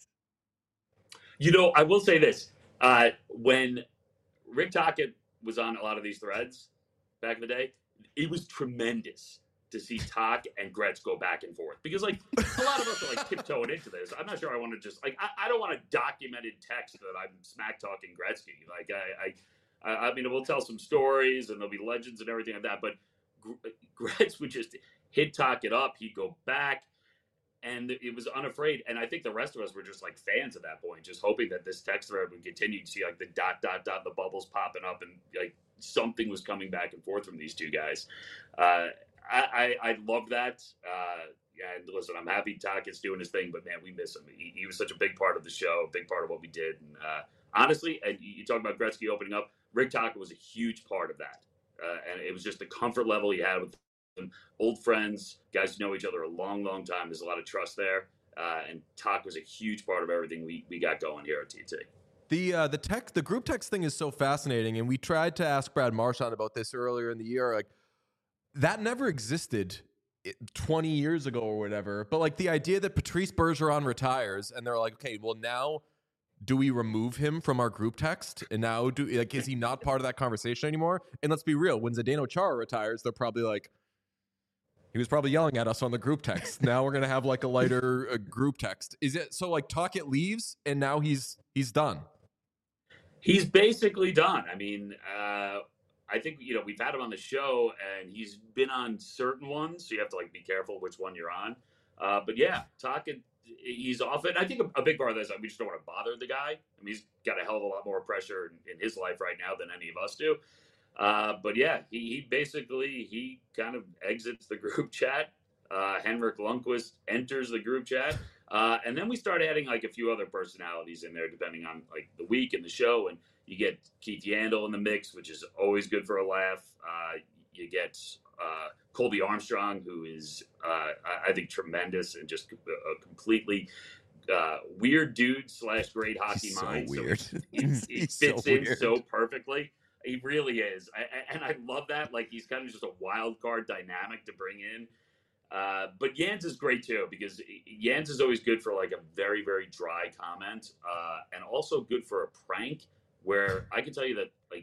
You know, I will say this: uh, when Rick Tocchet was on a lot of these threads back in the day, it was tremendous to see Tock and Gretz go back and forth, because like a lot of us are like tiptoeing into this. I'm not sure I want to just like I, I don't want a documented text that I'm smack talking Gretzky. Like I, I I mean we'll tell some stories and there'll be legends and everything like that, but Gretz would just hit Tocchet up. He'd go back. And it was unafraid. And I think the rest of us were just like fans at that point, just hoping that this text thread would continue to see like the dot, dot, dot, the bubbles popping up, and like something was coming back and forth from these two guys. Uh, I, I, I love that. Uh, and listen, I'm happy Tocchett's doing his thing, but man, we miss him. He, he was such a big part of the show, a big part of what we did. And uh, honestly, and you talk about Gretzky opening up, Rick Tocchet was a huge part of that. Uh, and it was just the comfort level he had with old friends, guys who know each other a long, long time. There's a lot of trust there, uh, and Tock was a huge part of everything we, we got going here at T T. The uh, the tech the group text thing is so fascinating, and we tried to ask Brad Marchand about this earlier in the year. Like that never existed twenty years ago or whatever. But like the idea that Patrice Bergeron retires, and they're like, okay, well now do we remove him from our group text? And now do like is he not part of that conversation anymore? And let's be real, when Zdeno Chara retires, they're probably like, he was probably yelling at us on the group text. Now we're gonna have like a lighter uh, group text. Is it so? Like Tocchet leaves, and now he's he's done. He's basically done. I mean, uh, I think you know we've had him on the show, and he's been on certain ones, so you have to like be careful which one you're on. Uh, but yeah, Tocchet, he's off it. I think a, a big part of this, is we just don't want to bother the guy. I mean, he's got a hell of a lot more pressure in, in his life right now than any of us do. Uh, but yeah, he, he basically, he kind of exits the group chat. Uh, Henrik Lundqvist enters the group chat. Uh, and then we start adding like a few other personalities in there, depending on like the week and the show. And you get Keith Yandel in the mix, which is always good for a laugh. Uh, you get uh, Colby Armstrong, who is, uh, I think, tremendous and just a completely uh, weird dude slash great hockey He's so mind. weird. So he, he, he He's fits so in weird. so perfectly. He really is. I, I, and I love that. Like, he's kind of just a wild card dynamic to bring in. Uh, but Jans is great, too, because Jans is always good for, like, a very, very dry comment. Uh, and also good for a prank where I can tell you that, like,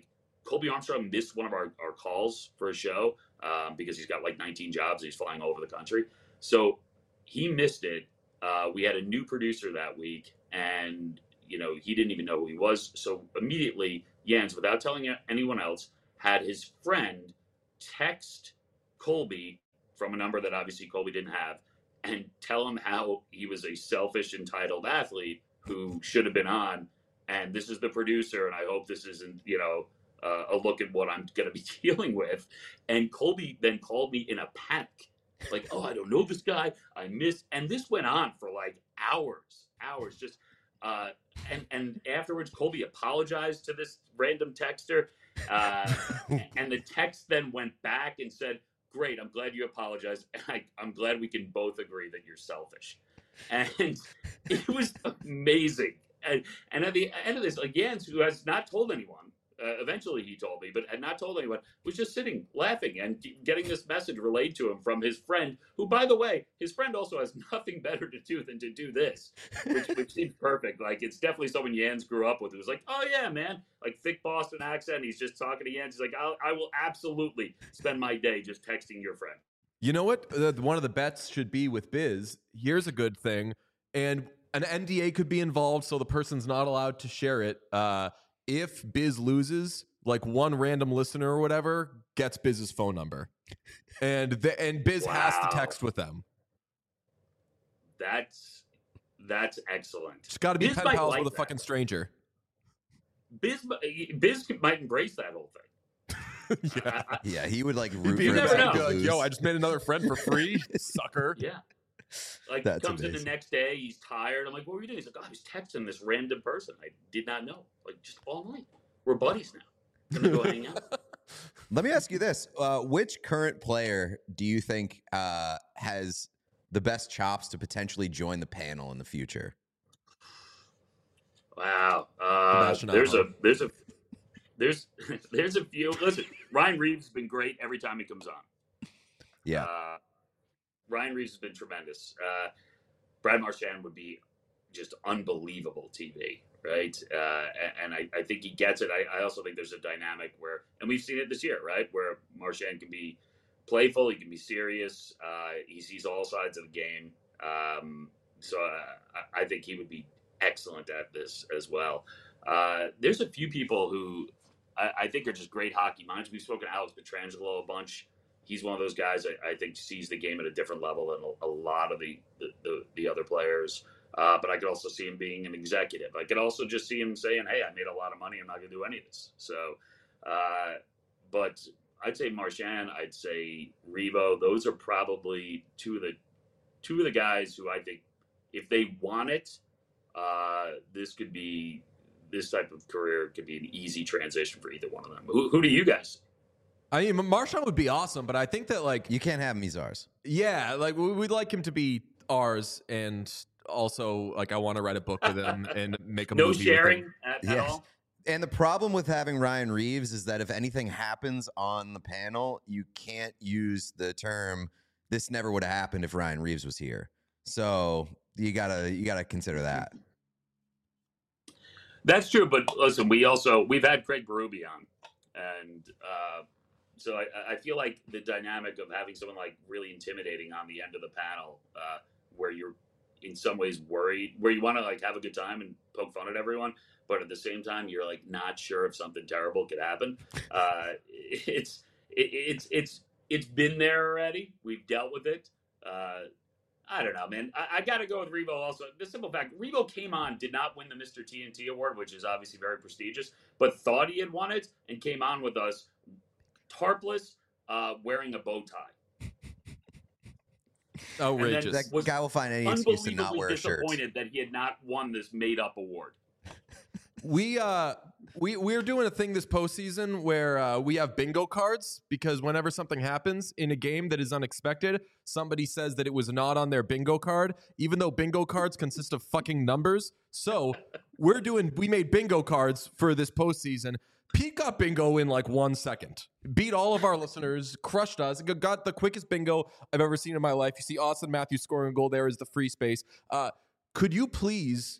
Colby Armstrong missed one of our, our calls for a show um, because he's got like nineteen jobs. He's flying all over the country. So he missed it. Uh, we had a new producer that week, and you know he didn't even know who he was. So immediately, Jens, without telling anyone else, had his friend text Colby from a number that obviously Colby didn't have, and tell him how he was a selfish, entitled athlete who should have been on. And this is the producer, and I hope this isn't, you know, uh, a look at what I'm going to be dealing with. And Colby then called me in a panic, like, oh, I don't know this guy. I missed. And this went on for like hours, hours. Just uh, and and afterwards, Colby apologized to this random texter, uh, and the text then went back and said, "Great, I'm glad you apologized. And I, I'm glad we can both agree that you're selfish." And it was amazing. And, and at the end of this, like Jens, who has not told anyone, uh, eventually he told me, but had not told anyone, was just sitting laughing and getting this message relayed to him from his friend, who, by the way, his friend also has nothing better to do than to do this, which, which seems perfect. Like, it's definitely someone Jens grew up with who was like, oh, yeah, man, like thick Boston accent. He's just talking to Jens. He's like, I'll, I will absolutely spend my day just texting your friend. You know what? Uh, one of the bets should be with Biz. Here's a good thing. And an N D A could be involved, so the person's not allowed to share it. Uh, if Biz loses, like one random listener or whatever gets Biz's phone number. And the, and Biz Wow. has to text with them. That's that's excellent. It's got to be Biz pen might pals like with a that. fucking stranger. Biz, Biz might embrace that whole thing. Yeah. I- I- Yeah, he would like He'd root be for You never himself know. to like, lose. yo, I just made another friend for free, sucker. Yeah. Like, That's comes in the amazing. next day, he's tired. I'm like, what were you doing? He's like, oh, I was texting this random person I did not know. Like, just all night. We're buddies now. Gonna go hang out. Let me ask you this: uh, which current player do you think uh, has the best chops to potentially join the panel in the future? Wow. Uh, Sebastian there's a Aho. there's a there's there's a few. Listen, Ryan Reeves has been great every time he comes on. Yeah, Uh, Ryan Reeves has been tremendous. Uh, Brad Marchand would be just unbelievable T V, right? Uh, and and I, I think he gets it. I, I also think there's a dynamic where, and we've seen it this year, right? Where Marchand can be playful, he can be serious. Uh, he sees all sides of the game. Um, so uh, I I think he would be excellent at this as well. Uh, there's a few people who I, I think are just great hockey minds. We've spoken to Alex Petrangelo a bunch. He's one of those guys I, I think sees the game at a different level than a, a lot of the the, the, the other players. Uh, but I could also see him being an executive. I could also just see him saying, hey, I made a lot of money. I'm not going to do any of this. So, uh, but I'd say Marchand, I'd say Revo. Those are probably two of the two of the guys who I think if they want it, uh, this could be this type of career could be an easy transition for either one of them. Who, who do you guys? I mean, Marchand would be awesome, but I think that, like, you can't have him. He's ours. yeah, like we- we'd like him to be ours, and also, like, I want to write a book with him and make a No movie sharing with him. at, at Yes. all? And the problem with having Ryan Reeves is that if anything happens on the panel, you can't use the term "this never would have happened if Ryan Reeves was here." So you gotta you gotta consider that. That's true, but listen, we also we've had Craig Berube on, and uh, so I, I feel like the dynamic of having someone like really intimidating on the end of the panel, uh, where you're in some ways worried, where you want to like have a good time and poke fun at everyone, but at the same time you're like not sure if something terrible could happen. Uh, it's it, it's it's it's been there already. We've dealt with it. Uh, I don't know, man. I, I got to go with Revo also. The simple fact, Revo came on, did not win the Mister T N T award, which is obviously very prestigious, but thought he had won it and came on with us tarpless, uh, wearing a bow tie. Outrageous. That Was guy will find any excuse to not Unbelievably wear a shirt. disappointed that he had not won this made-up award. We uh we we're doing a thing this postseason where uh, we have bingo cards, because whenever something happens in a game that is unexpected, somebody says that it was not on their bingo card, even though bingo cards consist of fucking numbers. So we're doing we made bingo cards for this postseason. Pete got bingo in like one second. Beat all of our listeners, crushed us, got the quickest bingo I've ever seen in my life. You see Austin Matthews scoring a goal. There is the free space. Uh, could you please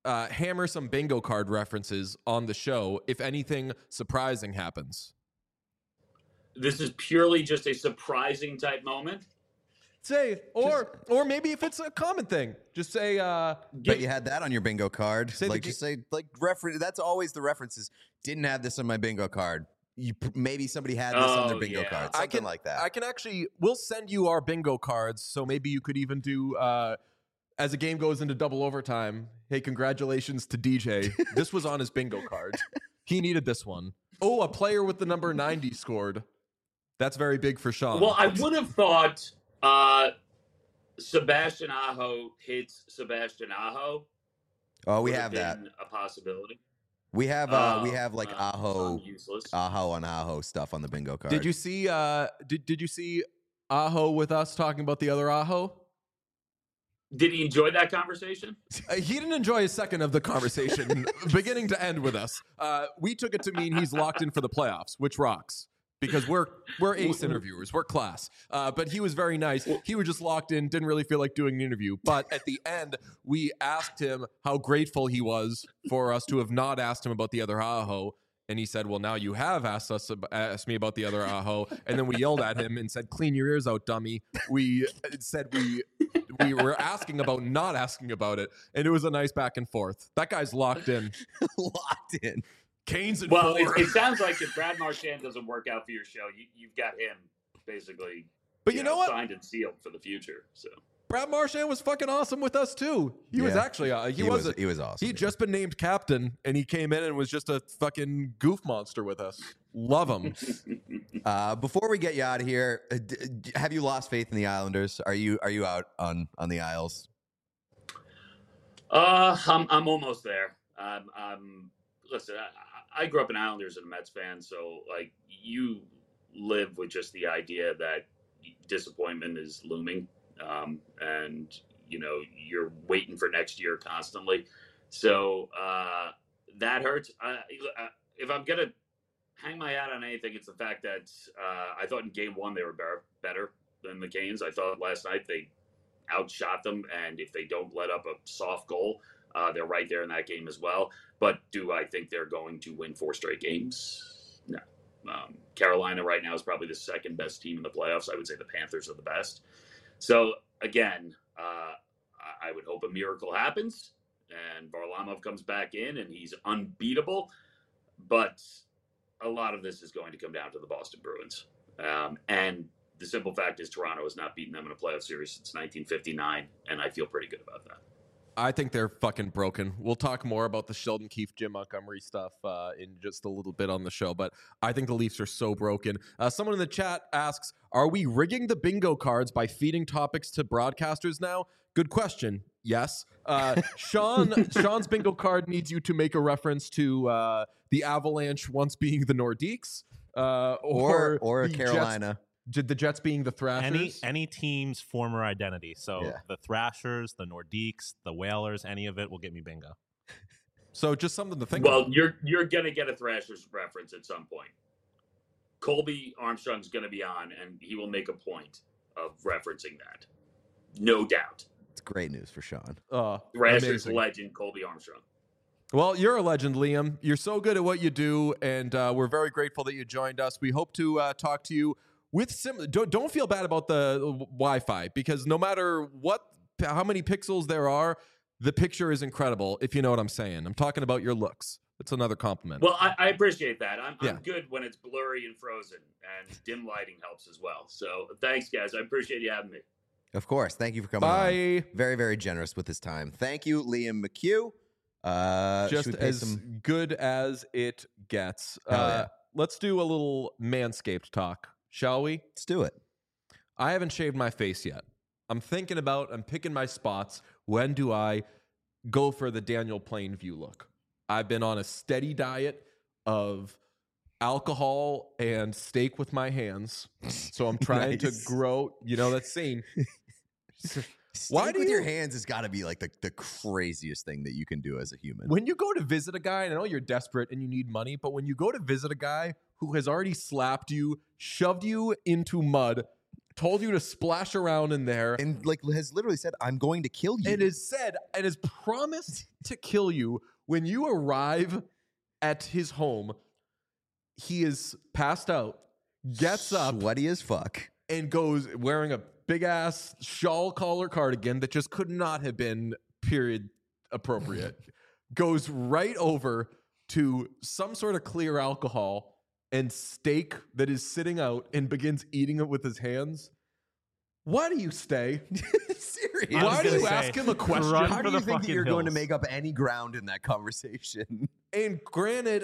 uh, hammer some bingo card references on the show if anything surprising happens. This is purely just a surprising type moment. Say, or or maybe if it's a common thing, just say. Uh, Bet you had that on your bingo card. Say the like g- just say like reference. That's always the references. Didn't have this on my bingo card. You maybe somebody had this on their Oh, bingo yeah. card. I Something can, like that. I can actually, we'll send you our bingo cards. So maybe you could even do, uh, as the game goes into double overtime, hey, congratulations to D J. This was on his bingo card. He needed this one. Oh, a player with the number ninety scored. That's very big for Sean. Well, I would have thought uh, Sebastian Aho hits Sebastian Aho. oh, we would have that. been a possibility. We have uh, we Oh, have like uh, Aho, I'm useless. Aho on Aho stuff on the bingo card. Did you see, uh, did, did you see Aho with us talking about the other Aho? Did he enjoy that conversation? Uh, he didn't enjoy a second of the conversation, beginning to end with us. Uh, we took it to mean he's locked in for the playoffs, which rocks because we're we're ace interviewers, we're class. Uh, but he was very nice. He was just locked in, didn't really feel like doing an interview. But at the end, we asked him how grateful he was for us to have not asked him about the other Aho. And he said, well, now you have asked us ab- asked me about the other Aho. And then we yelled at him and said, clean your ears out, dummy. We said we we were asking about not asking about it. And it was a nice back and forth. That guy's locked in. locked in? Canes at Well, four. it, it sounds like if Brad Marchand doesn't work out for your show, you, you've got him basically But you know what? signed and sealed for the future. So Brad Marchand was fucking awesome with us too. He was Yeah. actually uh, he, He was wasn't he was awesome. He'd yeah. just been named captain, and he came in and was just a fucking goof monster with us. Love him. Uh, before we get you out of here, uh, d- d- have you lost faith in the Islanders? Are you are you out on on the Isles? Uh, I'm I'm almost there. Um, I'm listen. I, I grew up an Islanders and a Mets fan, so like you live with just the idea that disappointment is looming, um, and you know you're waiting for next year constantly. So uh, that hurts. I, I, if I'm gonna hang my hat on anything, it's the fact that uh, I thought in Game One they were better, better than the Canes. I thought last night they outshot them, and if they don't let up a soft goal, uh, they're right there in that game as well. But do I think they're going to win four straight games? No. Um, Carolina right now is probably the second best team in the playoffs. I would say the Panthers are the best. So again, uh, I would hope a miracle happens and Varlamov comes back in and he's unbeatable. But a lot of this is going to come down to the Boston Bruins. Um, and the simple fact is Toronto has not beaten them in a playoff series since nineteen fifty-nine, and I feel pretty good about that. I think they're fucking broken. We'll talk more about the Sheldon Keefe, Jim Montgomery stuff uh, in just a little bit on the show, but I think the Leafs are so broken. Uh, someone in the chat asks, are we rigging the bingo cards by feeding topics to broadcasters now? Good question. Yes. Uh, Sean, Sean's bingo card needs you to make a reference to uh, the Avalanche once being the Nordiques. Uh, Or or or the Carolina? Jets, did the Jets being the Thrashers? Any any team's former identity. So Yeah. the Thrashers, the Nordiques, the Whalers, any of it will get me bingo. So just something to think Well, about. you're you're gonna get a Thrashers reference at some point. Colby Armstrong's gonna be on, and he will make a point of referencing that, no doubt. It's great news for Sean. Uh, Thrashers amazing. legend Colby Armstrong. Well, you're a legend, Liam. You're so good at what you do, and uh, we're very grateful that you joined us. We hope to uh, talk to you with sim. Don't, don't feel bad about the uh, Wi-Fi because no matter what, how many pixels there are, the picture is incredible. If you know what I'm saying, I'm talking about your looks. It's another compliment. Well, I, I appreciate that. I'm, Yeah. I'm good when it's blurry and frozen, and dim lighting helps as well. So thanks, guys. I appreciate you having me. Of course. Thank you for coming on. Bye. Very, very generous with his time. Thank you, Liam McHugh. Uh, should Just we pay as some? good as it gets. Hell Uh, yeah. Let's do a little Manscaped talk, shall we? Let's do it. I haven't shaved my face yet. I'm thinking about, I'm picking my spots. When do I go for the Daniel Plainview look? I've been on a steady diet of alcohol and steak with my hands. So I'm trying Nice. to grow, you know, that scene. Why Why do with your you- hands has got to be like the, the craziest thing that you can do as a human. When you go to visit a guy, and I know you're desperate and you need money, but when you go to visit a guy who has already slapped you, shoved you into mud, told you to splash around in there, and like has literally said, "I'm going to kill you." and has said and has promised to kill you when you arrive at his home. He is passed out, gets up, sweaty as fuck, and goes wearing a big ass shawl collar cardigan that just could not have been period appropriate. Goes right over to some sort of clear alcohol and steak that is sitting out and begins eating it with his hands. Why do you stay? Seriously. I was Why do gonna you say, ask him a question? run How for do the you think that fucking you're going to hills. make up any ground in that conversation? And granted,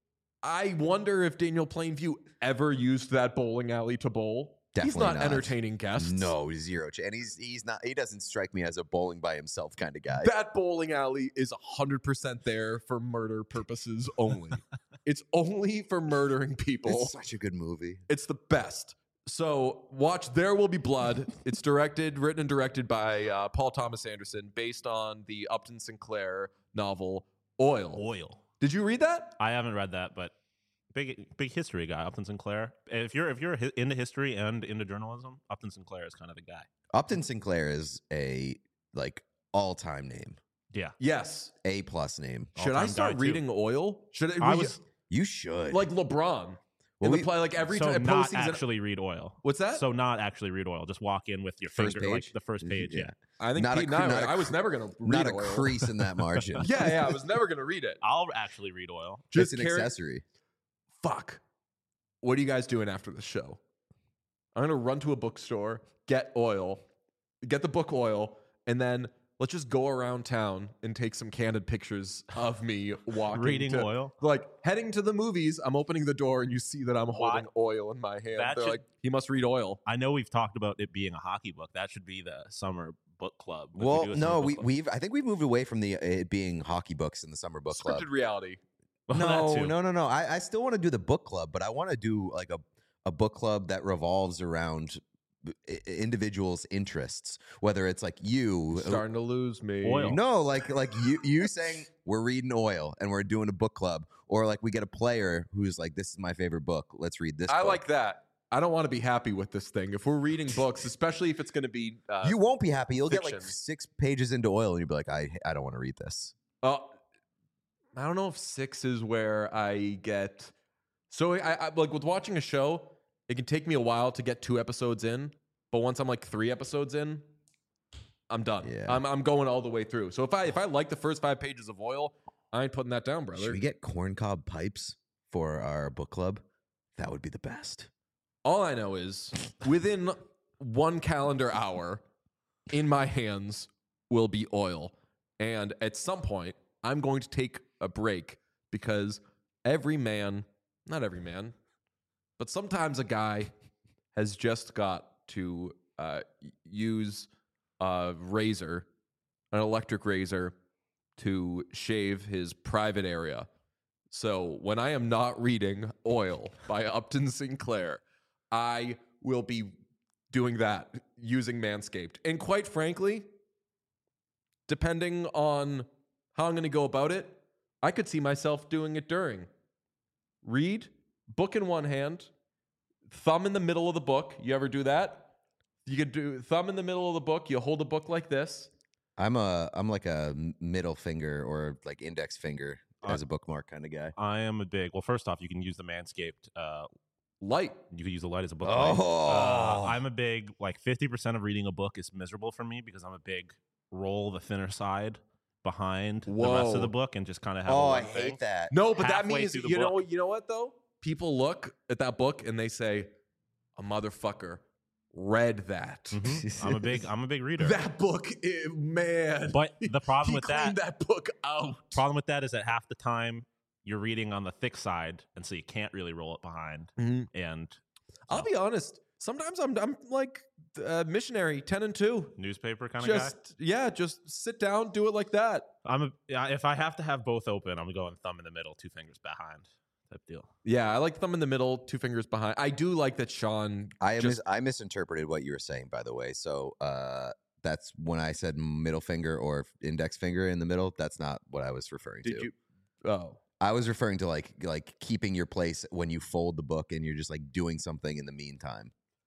I wonder if Daniel Plainview ever used that bowling alley to bowl. He's Definitely not, not. entertaining guests. No, zero. ch- And he's he's not. He doesn't strike me as a bowling by himself kind of guy. That bowling alley is one hundred percent there for murder purposes only. It's only for murdering people. It's such a good movie. It's the best. So watch There Will Be Blood. It's directed, written and directed by uh, Paul Thomas Anderson, based on the Upton Sinclair novel Oil. Oil. Did you read that? I haven't read that, but big big history guy, Upton Sinclair. If you're if you're hi- into history and into journalism, Upton Sinclair is kind of the guy. Upton Sinclair is a like all time name, Yeah, Yes. A plus name. Should I All-time start guy, too. reading Oil? Should I we- was You should like LeBron? Well, Well, we- play like every so time not postseason. actually read Oil. What's that? So not actually read Oil. Just walk in with your First finger, like page? the first page. Yeah. I think not a Pete cre- and I, not a I was cre- never going to read not a Oil. crease in that margin. Yeah, yeah, I was never going to read it. I'll actually read Oil. Just it's an carry- accessory. Fuck. What are you guys doing after the show? I'm going to run to a bookstore, get Oil, get the book Oil, and then let's just go around town and take some candid pictures of me walking. Reading to- Oil. Like heading to the movies, I'm opening the door and you see that I'm holding oil in my hand. That They're should- like, he must read Oil. I know we've talked about it being a hockey book. That should be the summer book club. If we Well, do a summer no, book we club. we've I think we've moved away from the it being hockey books in the summer book club. Scripted reality. Well, that No, too. no, no, no. I, I still want to do the book club, but I want to do like a, a book club that revolves around i- i- individuals' interests. Whether it's like you, Starting to lose me. Oil. no, like like you you saying we're reading Oil and we're doing a book club, or like we get a player who's like, this is my favorite book. Let's read this. I book. like that. I don't want to be happy with this thing. If we're reading books, especially if it's going to be, uh, You won't be happy. You'll get like fiction. six pages into Oil, and you'll be like, I I don't want to read this. uh, I don't know if six is where I get. So I, I like with watching a show, it can take me a while to get two episodes in, but once I'm like three episodes in, I'm done. Yeah. I'm I'm going all the way through. So if I if I like the first five pages of Oil, I ain't putting that down, brother. Should we get corncob pipes for our book club? That would be the best. All I know is within one calendar hour, in my hands will be Oil. And at some point, I'm going to take a break because every man, not every man, but sometimes a guy has just got to uh, use a razor, an electric razor, to shave his private area. So when I am not reading Oil by Upton Sinclair, I will be doing that using Manscaped. And quite frankly, depending on how I'm going to go about it, I could see myself doing it during. Read, book in one hand, thumb in the middle of the book. You ever do that? You could do thumb in the middle of the book. You hold a book like this. I'm a I'm like a m- middle finger or like index finger Uh, as a bookmark kind of guy. I am a big. Well, first off, you can use the Manscaped. Uh, Light. you could use the light as a book. Oh. light. Uh, I'm a big like fifty percent of reading a book is miserable for me because I'm a big roll the thinner side behind the rest Whoa. of the book and just kind of have. a Oh, one I thing. hate that. No, but that Halfway means through the you know book. you know what though? People look at that book and they say, "A motherfucker read that." Mhm. I'm a big. I'm a big reader. That book, eh, man. But the problem he with that, cleaned that book out. problem with that is that half the time you're reading on the thick side, and so you can't really roll it behind. And I'll be honest. Sometimes I'm I'm like uh, missionary ten and two. newspaper kind of guy. Just yeah, just sit down, do it like that. I'm a. yeah, If I have to have both open, I'm going thumb in the middle, two fingers behind. Type deal. Yeah, I like thumb in the middle, two fingers behind. I do like that Sean. I mis- just, I misinterpreted what you were saying, by the way. So uh, that's when I said middle finger or index finger in the middle. That's not what I was referring did to. you? Oh, I was referring to like like keeping your place when you fold the book and you're just like doing something in the meantime.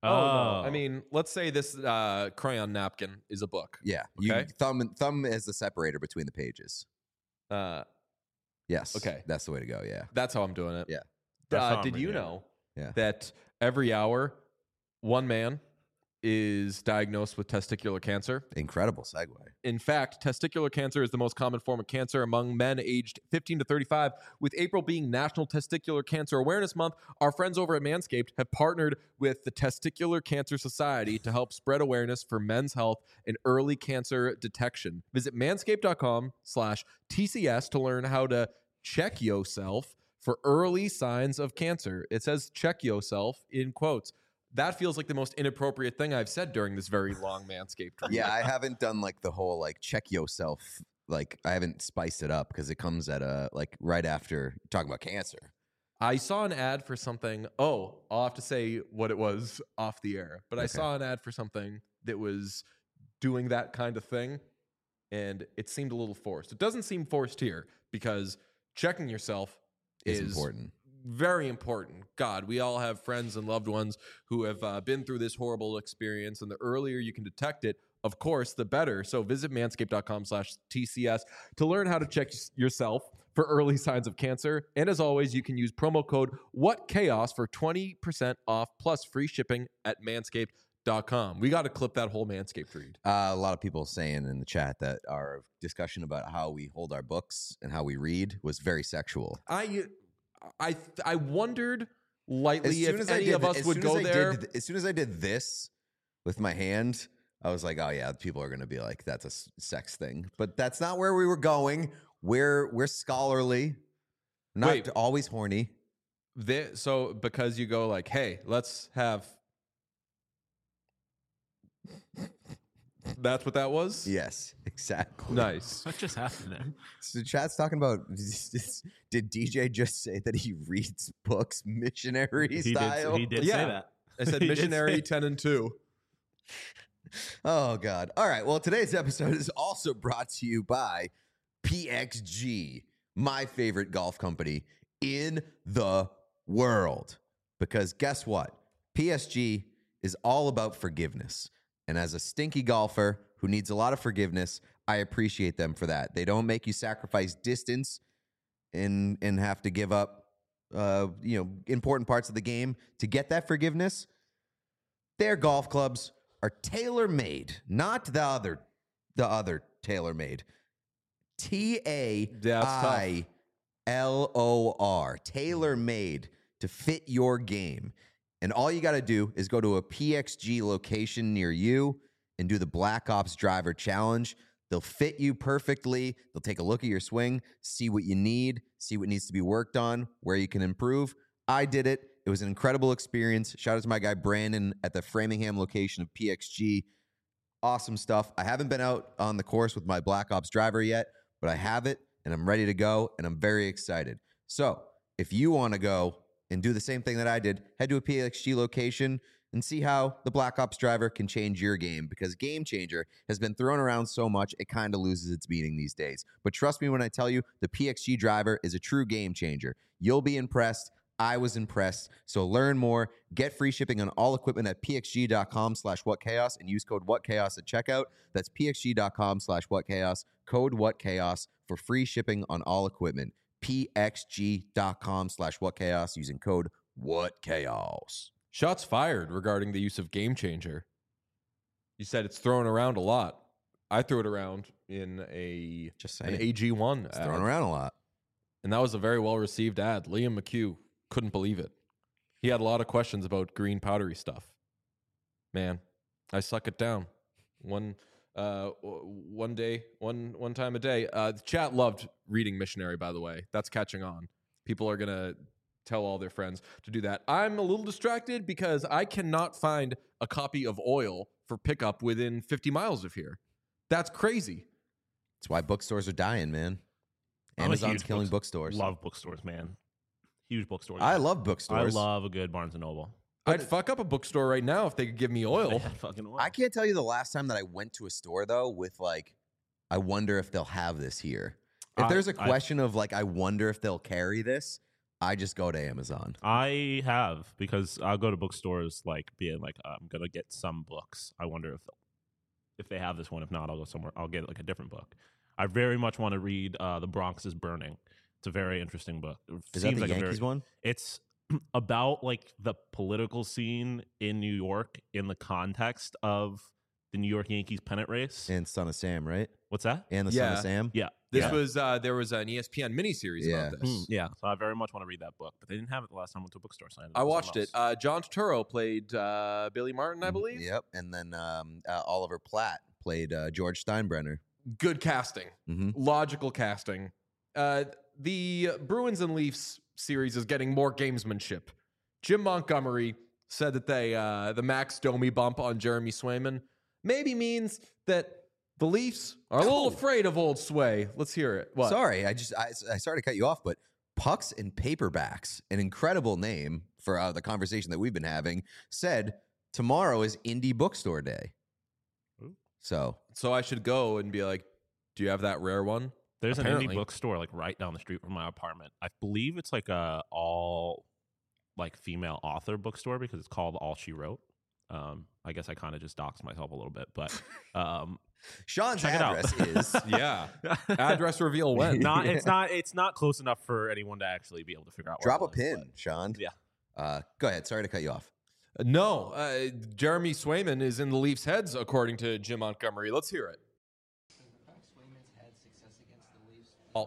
Oh, no. I mean, let's say this uh, crayon napkin is a book. Yeah, you Okay. thumb and thumb is the separator between the pages. Uh, Yes. Okay. That's the way to go. Yeah. that's how I'm doing it. Yeah. That's how Uh, I'm did you reading it. know Yeah. that every hour, one man is diagnosed with testicular cancer? Incredible segue. In fact, testicular cancer is the most common form of cancer among men aged fifteen to thirty-five. With April being National Testicular Cancer Awareness Month, our friends over at Manscaped have partnered with the Testicular Cancer Society to help spread awareness for men's health and early cancer detection. Visit manscaped.com slash TCS to learn how to check yourself for early signs of cancer. It says check yourself in quotes. That feels like the most inappropriate thing I've said during this very long Manscaped read. Yeah, I haven't done like the whole like check yourself. Like I haven't spiced it up because it comes at a like right after talking about cancer. I saw an ad for something. Oh, I'll have to say what it was off the air. But I Okay. saw an ad for something that was doing that kind of thing, and it seemed a little forced. It doesn't seem forced here because checking yourself Is is important. very important. God, we all have friends and loved ones who have uh, been through this horrible experience, and the earlier you can detect it, of course, the better. So visit manscaped.com slash TCS to learn how to check yourself for early signs of cancer. And as always, you can use promo code WhatChaos for twenty percent off plus free shipping at manscaped dot com. We got to clip that whole Manscaped read. Uh, a lot of people saying in the chat that our discussion about how we hold our books and how we read was very sexual. I I I wondered lightly if I any did of th- us as would soon go as I there. did th- as soon as I did this with my hand, I was like, oh yeah, people are going to be like, that's a s- sex thing. But that's not where we were going. We're we're scholarly, not Wait. always horny. Thi- so because you go like, hey, let's have. That's what that was? Yes, exactly. Nice. What just happened there? So chat's talking about, did D J just say that he reads books missionary He style? did, he did Yeah. say that. I said He did missionary say- ten and two. Oh, God. All right. Well, today's episode is also brought to you by P X G, my favorite golf company in the world. Because guess what? P S G is all about forgiveness. And as a stinky golfer who needs a lot of forgiveness, I appreciate them for that. They don't make you sacrifice distance and and have to give up uh, you know, important parts of the game to get that forgiveness. Their golf clubs are tailor-made, not the other the other tailor-made. T A I L O R, tailor-made to fit your game. And all you got to do is go to a P X G location near you and do the Black Ops Driver Challenge. They'll fit you perfectly. They'll take a look at your swing, see what you need, see what needs to be worked on, where you can improve. I did it. It was an incredible experience. Shout out to my guy Brandon at the Framingham location of P X G. Awesome stuff. I haven't been out on the course with my Black Ops Driver yet, but I have it, and I'm ready to go, and I'm very excited. So if you want to go and do the same thing that I did, head to a P X G location and see how the Black Ops Driver can change your game, because Game Changer has been thrown around so much, it kind of loses its meaning these days. But trust me when I tell you, the P X G Driver is a true game changer. You'll be impressed. I was impressed. So learn more. Get free shipping on all equipment at pxg.com slash whatchaos and use code whatchaos at checkout. That's pxg.com slash whatchaos, code whatchaos for free shipping on all equipment. pxg.com slash whatchaos using code whatchaos. Shots fired regarding the use of Game Changer. You said it's thrown around a lot. I threw it around in a Just an saying. A G one It's ad, thrown around a lot. and that was a very well received ad. Liam McHugh couldn't believe it. He had a lot of questions about green powdery stuff. Man, I suck it down. One uh w- one day, one one time a day. Uh the chat loved reading Missionary, by the way. That's catching on. People are gonna tell all their friends to do that. I'm a little distracted because I cannot find a copy of Oil for pickup within fifty miles of here. That's crazy. That's why bookstores are dying, man. I'm a Amazon's huge killing books- bookstores. Love bookstores, man. Huge bookstores. I love I bookstores. love a good Barnes and Noble. I'd fuck up a bookstore right now if they could give me oil. Yeah, fucking oil. I can't tell you the last time that I went to a store though with like, I wonder if they'll have this here. If I- there's a I- question of like, I wonder if they'll carry this, I just go to Amazon. I have, because I'll go to bookstores like being like, I'm gonna get some books. I wonder if if they have this one. If not, I'll go somewhere. I'll get like a different book. I very much want to read uh, The Bronx is Burning. It's a very interesting book. It Is seems that the like a Yankees very, one? It's about like the political scene in New York in the context of the New York Yankees pennant race. And Son of Sam, right? What's that? And the Son Yeah. of Sam? Yeah. This yeah. was uh, there was an E S P N miniseries Yeah. about this. Mm, yeah. So I very much want to read that book, but they didn't have it the last time I went to a bookstore. So I, ended up I with watched something it. else. Uh, John Turturro played uh, Billy Martin, I believe. Yep. And then um, uh, Oliver Platt played uh, George Steinbrenner. Good casting, Mm-hmm. logical casting. Uh, the Bruins and Leafs series is getting more gamesmanship. Jim Montgomery said that they uh, the Max Domi bump on Jeremy Swayman maybe means that the Leafs are a little No. afraid of old Sway. Let's hear it. What? Sorry, I just I, I started to cut you off, but Pucks and Paperbacks, an incredible name for uh, the conversation that we've been having, said tomorrow is Indie Bookstore Day. Ooh. So So I should go and be like, do you have that rare one? There's an Apparently. indie bookstore like right down the street from my apartment. I believe it's like a all like female author bookstore because it's called All She Wrote. Um, I guess I kind of just doxed myself a little bit, but um, Sean's Check it out. address is Yeah. Address reveal when? not it's not it's not close enough for anyone to actually be able to figure out. drop a where it was, pin, Sean. Yeah. Uh, go ahead. Sorry to cut you off. No, uh, Jeremy Swayman is in the Leafs' heads, according to Jim Montgomery. Let's hear it. Oh,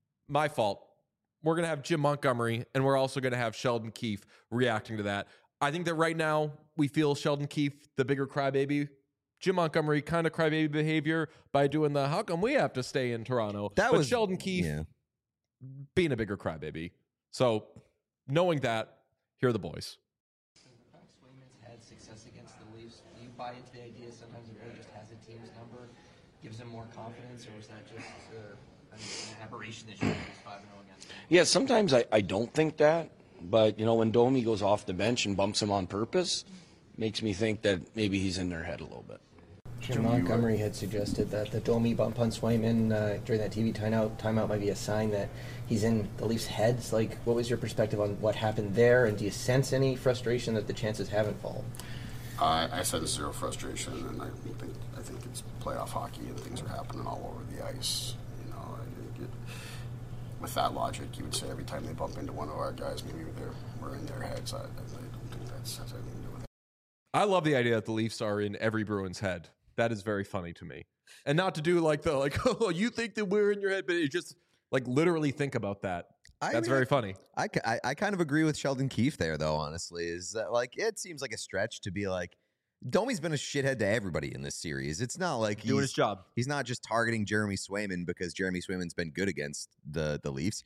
my fault. We're going to have Jim Montgomery, and we're also going to have Sheldon Keefe reacting to that. I think that right now we feel Sheldon Keefe, the bigger crybaby. Jim Montgomery, kind of crybaby behavior by doing the, how come we have to stay in Toronto? That but was Sheldon Keefe Yeah. being a bigger crybaby. So knowing that, here are the boys. Swayman's had success against the Leafs. Do you buy into the idea sometimes it really just has a team's number, gives them more confidence, or is that just uh, an, an aberration that you lose five and oh against them? Yeah, sometimes I, I don't think that, but you know, when Domi goes off the bench and bumps him on purpose, makes me think that maybe he's in their head a little bit. Jim Montgomery had suggested that the Domi bump on Swayman uh, during that T V timeout, timeout might be a sign that he's in the Leafs' heads. Like, what was your perspective on what happened there, and do you sense any frustration that the chances haven't fallen? Uh, I said zero frustration, and I think I think it's playoff hockey, and things are happening all over the ice. You know, I think it, with that logic, you would say every time they bump into one of our guys, maybe they're we're in their heads. I, I don't think that's has anything to do with it. I love the idea that the Leafs are in every Bruin's head. That is very funny to me. And not to do like the, like, oh, you think that we're in your head, but it just, like, literally think about that. I That's mean, very funny. I, ca- I, I kind of agree with Sheldon Keefe there, though, honestly. Is that, like, it seems like a stretch to be like, Domi's been a shithead to everybody in this series. It's not like Doing he's, his job. he's not just targeting Jeremy Swayman because Jeremy Swayman's been good against the, the Leafs.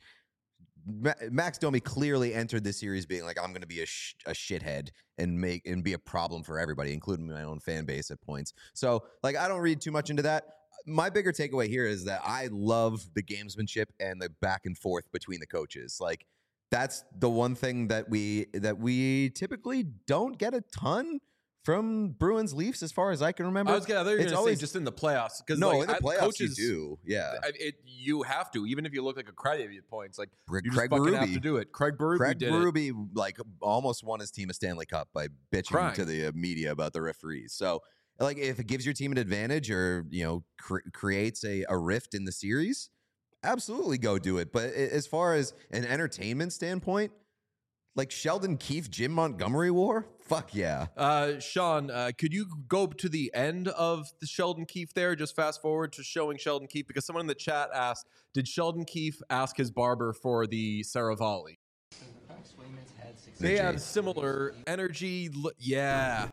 Ma- Max Domi clearly entered this series being like, I'm going to be a, sh- a shithead and make and be a problem for everybody, including my own fan base at points. So, like, I don't read too much into that. My bigger takeaway here is that I love the gamesmanship and the back and forth between the coaches. Like, that's the one thing that we that we typically don't get a ton from Bruins Leafs, as far as I can remember. I was gonna, I thought you were It's gonna always- say just in the playoffs. Because no, like, in the I- playoffs coaches, you do. Yeah, I, it, you have to, even if you look like a crybaby at points. Like, Craig you just fucking have Berube. to do it. Craig Berube Craig did it. Berube like almost won his team a Stanley Cup by bitching Crying. to the uh, media about the referees. So, like, if it gives your team an advantage or you know cr- creates a, a rift in the series, absolutely go do it. But a- as far as an entertainment standpoint, like Sheldon Keefe, Jim Montgomery war, fuck yeah. Uh, Sean, uh, could you go to the end of the Sheldon Keefe there? Just fast forward to showing Sheldon Keefe, because someone in the chat asked, did Sheldon Keefe ask his barber for the Saravalli? Swayman's had success. They Jay. have similar energy. L- Yeah.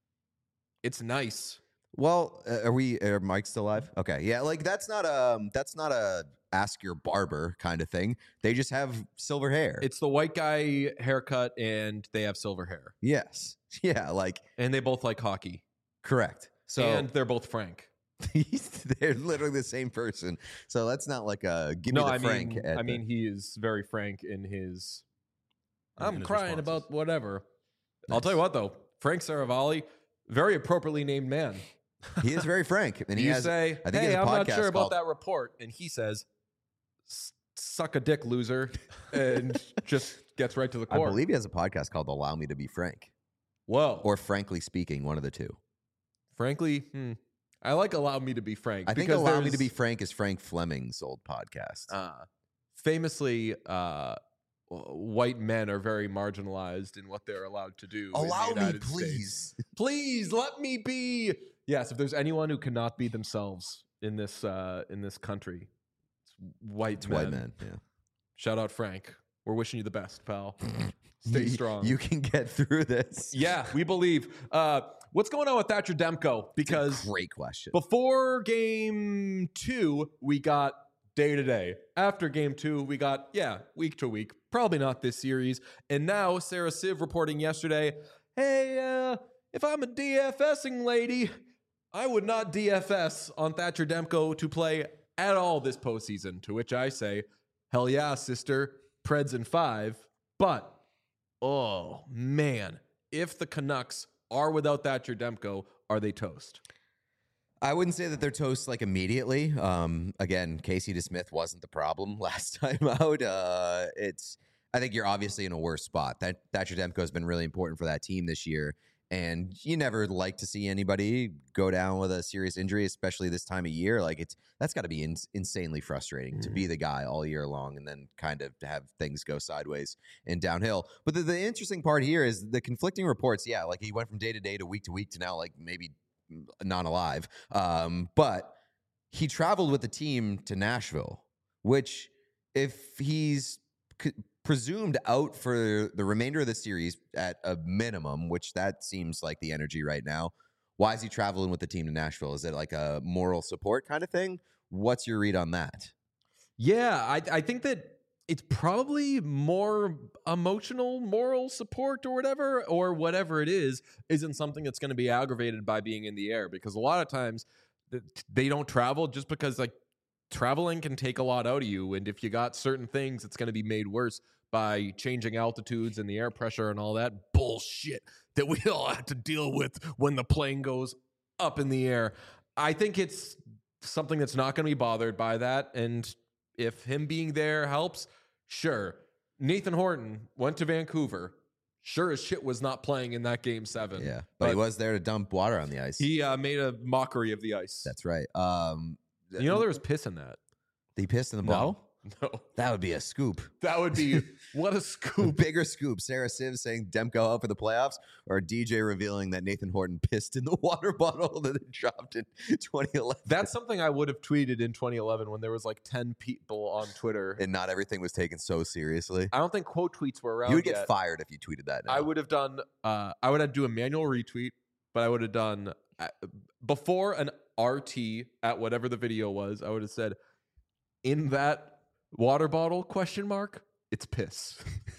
It's nice. Well, uh, are we? Are Mike still alive? Okay, yeah. Like that's not a that's not a ask your barber kind of thing. They just have silver hair. It's the white guy haircut, and they have silver hair. yes, yeah. Like And they both like hockey. correct. So and they're both Frank. they're literally the same person. So that's not like a give no, me the I Frank. mean, at I the- mean, he is very frank in his. In- I'm in his crying responses. about whatever. I'll Nice. tell you what, though, Frank Saravalli, very appropriately named man. he is very frank, and he you has. say, I think he "Hey, has a I'm not podcast sure about called- that report," and he says, "S- suck a dick, loser, and just gets right to the I core. believe he has a podcast called Allow Me to Be Frank, Whoa. or Frankly Speaking, one of the two. Frankly, hmm, I like Allow Me to Be Frank. I think because Allow Me to there's, Be Frank is Frank Fleming's old podcast. Uh, famously, uh, white men are very marginalized in what they're allowed to do. Allow in the me, United please. States. Please let me be. Yes, if there's anyone who cannot be themselves in this uh, in this country, it's white It's men. white men. Yeah. Shout out Frank. We're wishing you the best, pal. Stay You- strong. You can get through this. Yeah, we believe. Uh, what's going on with Thatcher Demko? Because Great question. before game two, we got day to day. After game two, we got, yeah, week to week. Probably not this series. And now Sarah Civ reporting yesterday, hey, uh, if I'm a DFSing lady, I would not D F S on Thatcher Demko to play at all this postseason. To which I say, hell yeah, sister, Preds in five. But, oh, man, if the Canucks are without Thatcher Demko, are they toast? I wouldn't say that they're toast like immediately. Um, again, Casey DeSmith wasn't the problem last time out. Uh, it's I think you're obviously in a worse spot. That Thatcher Demko has been really important for that team this year, and you never like to see anybody go down with a serious injury, especially this time of year. Like it's that's got to be in, insanely frustrating mm. to be the guy all year long, and then kind of to have things go sideways and downhill. But the, the interesting part here is the conflicting reports. Yeah, like he went from day to day to week to week to now like maybe not alive. Um, but he traveled with the team to Nashville, which if he's c- presumed out for the remainder of the series at a minimum, which that seems like the energy right now, why is he traveling with the team to Nashville? Is it like a moral support kind of thing? What's your read on that? Yeah, I, I think that it's probably more emotional, moral support or whatever, or whatever it is, isn't something that's going to be aggravated by being in the air. Because a lot of times they don't travel just because like traveling can take a lot out of you. And if you got certain things, it's going to be made worse by changing altitudes and the air pressure and all that bullshit that we all have to deal with when the plane goes up in the air. I think it's something that's not going to be bothered by that. And if him being there helps, sure. Nathan Horton went to Vancouver. Sure as shit was not playing in that game seven. Yeah, but, but he was there to dump water on the ice. He uh, made a mockery of the ice. That's right. Um, you know there was piss in that. He pissed in the bottle? No. That would be a scoop. That would be, what a scoop. Bigger scoop. Sarah Civ saying Demko out for the playoffs, or D J revealing that Nathan Horton pissed in the water bottle that it dropped in twenty eleven. That's something I would have tweeted in twenty eleven when there was like ten people on Twitter. And not everything was taken so seriously. I don't think quote tweets were around You would get yet. fired if you tweeted that now. I would have done, uh, I would have do a manual retweet, but I would have done, uh, before an R T at whatever the video was, I would have said, in that water bottle, question mark, it's piss.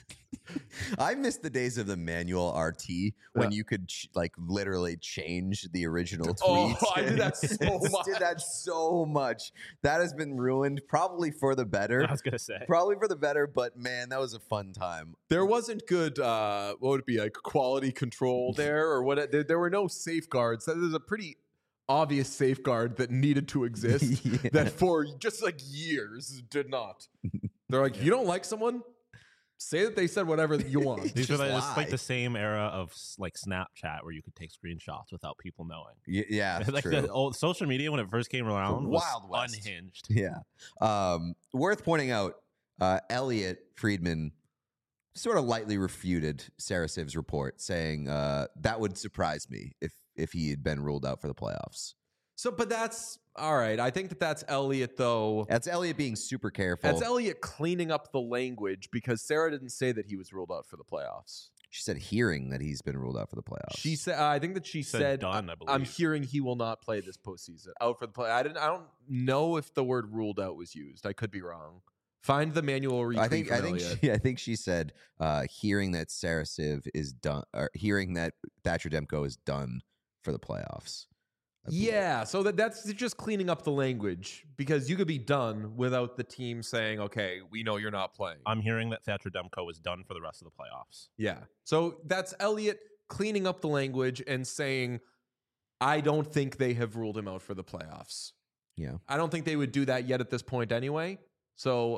I miss the days of the manual R T when Yeah. you could ch- like literally change the original Oh, tweets. I did that so much. Did that so much. That has been ruined, probably for the better. I was gonna say. Probably for the better, but man, that was a fun time. There wasn't good, uh, what would it be, like quality control there, or what? There, there were no safeguards. There's a pretty obvious safeguard that needed to exist Yeah. that for just like years did not. They're like, you don't like someone? Say that they said whatever that you want. These Just are like, it's lie. like the same era of s- like Snapchat where you could take screenshots without people knowing. Y- yeah, like true. the old social media when it first came around was Wild West. unhinged. Yeah. Um, worth pointing out, uh, Elliot Friedman sort of lightly refuted Sarah Civ's report, saying uh, that would surprise me if if he had been ruled out for the playoffs. So, but that's all right. I think that that's Elliot, though. That's Elliot being super careful. That's Elliot cleaning up the language because Sarah didn't say that he was ruled out for the playoffs. She said hearing that he's been ruled out for the playoffs. She said, uh, I think that she Said said, done, I I'm believe. hearing he will not play this postseason. Out for the play. I didn't. I don't know if the word ruled out was used. I could be wrong. Find the manual retweet I think from I think Elliot. she, I think she said uh, hearing that Sarah Civ is done, or hearing that Thatcher Demko is done for the playoffs. I believe. Yeah, so that that's just cleaning up the language because you could be done without the team saying, "Okay, we know you're not playing." I'm hearing that Thatcher Demko is done for the rest of the playoffs. Yeah. So that's Elliot cleaning up the language and saying, I don't think they have ruled him out for the playoffs. Yeah. I don't think they would do that yet at this point anyway. So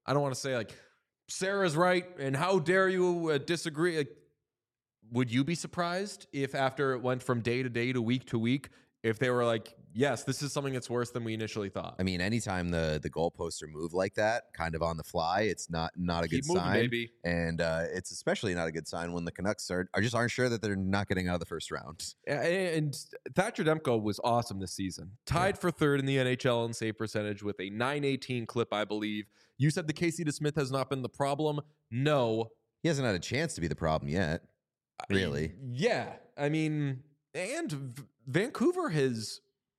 I don't want to say like Sarah's right and how dare you uh, disagree. Like, would you be surprised if after it went from day to day to week to week, if they were like, yes, this is something that's worse than we initially thought? I mean, anytime the the goalposts are moved like that, kind of on the fly, it's not not a Keep good moving, sign. baby. And uh, it's especially not a good sign when the Canucks are, are just aren't sure that they're not getting out of the first round. And Thatcher Demko was awesome this season. Tied Yeah. for third in the N H L in save percentage with a nine eighteen clip, I believe. You said the Casey DeSmith has not been the problem. No. He hasn't had a chance to be the problem yet. Really? Yeah. I mean, and V- Vancouver has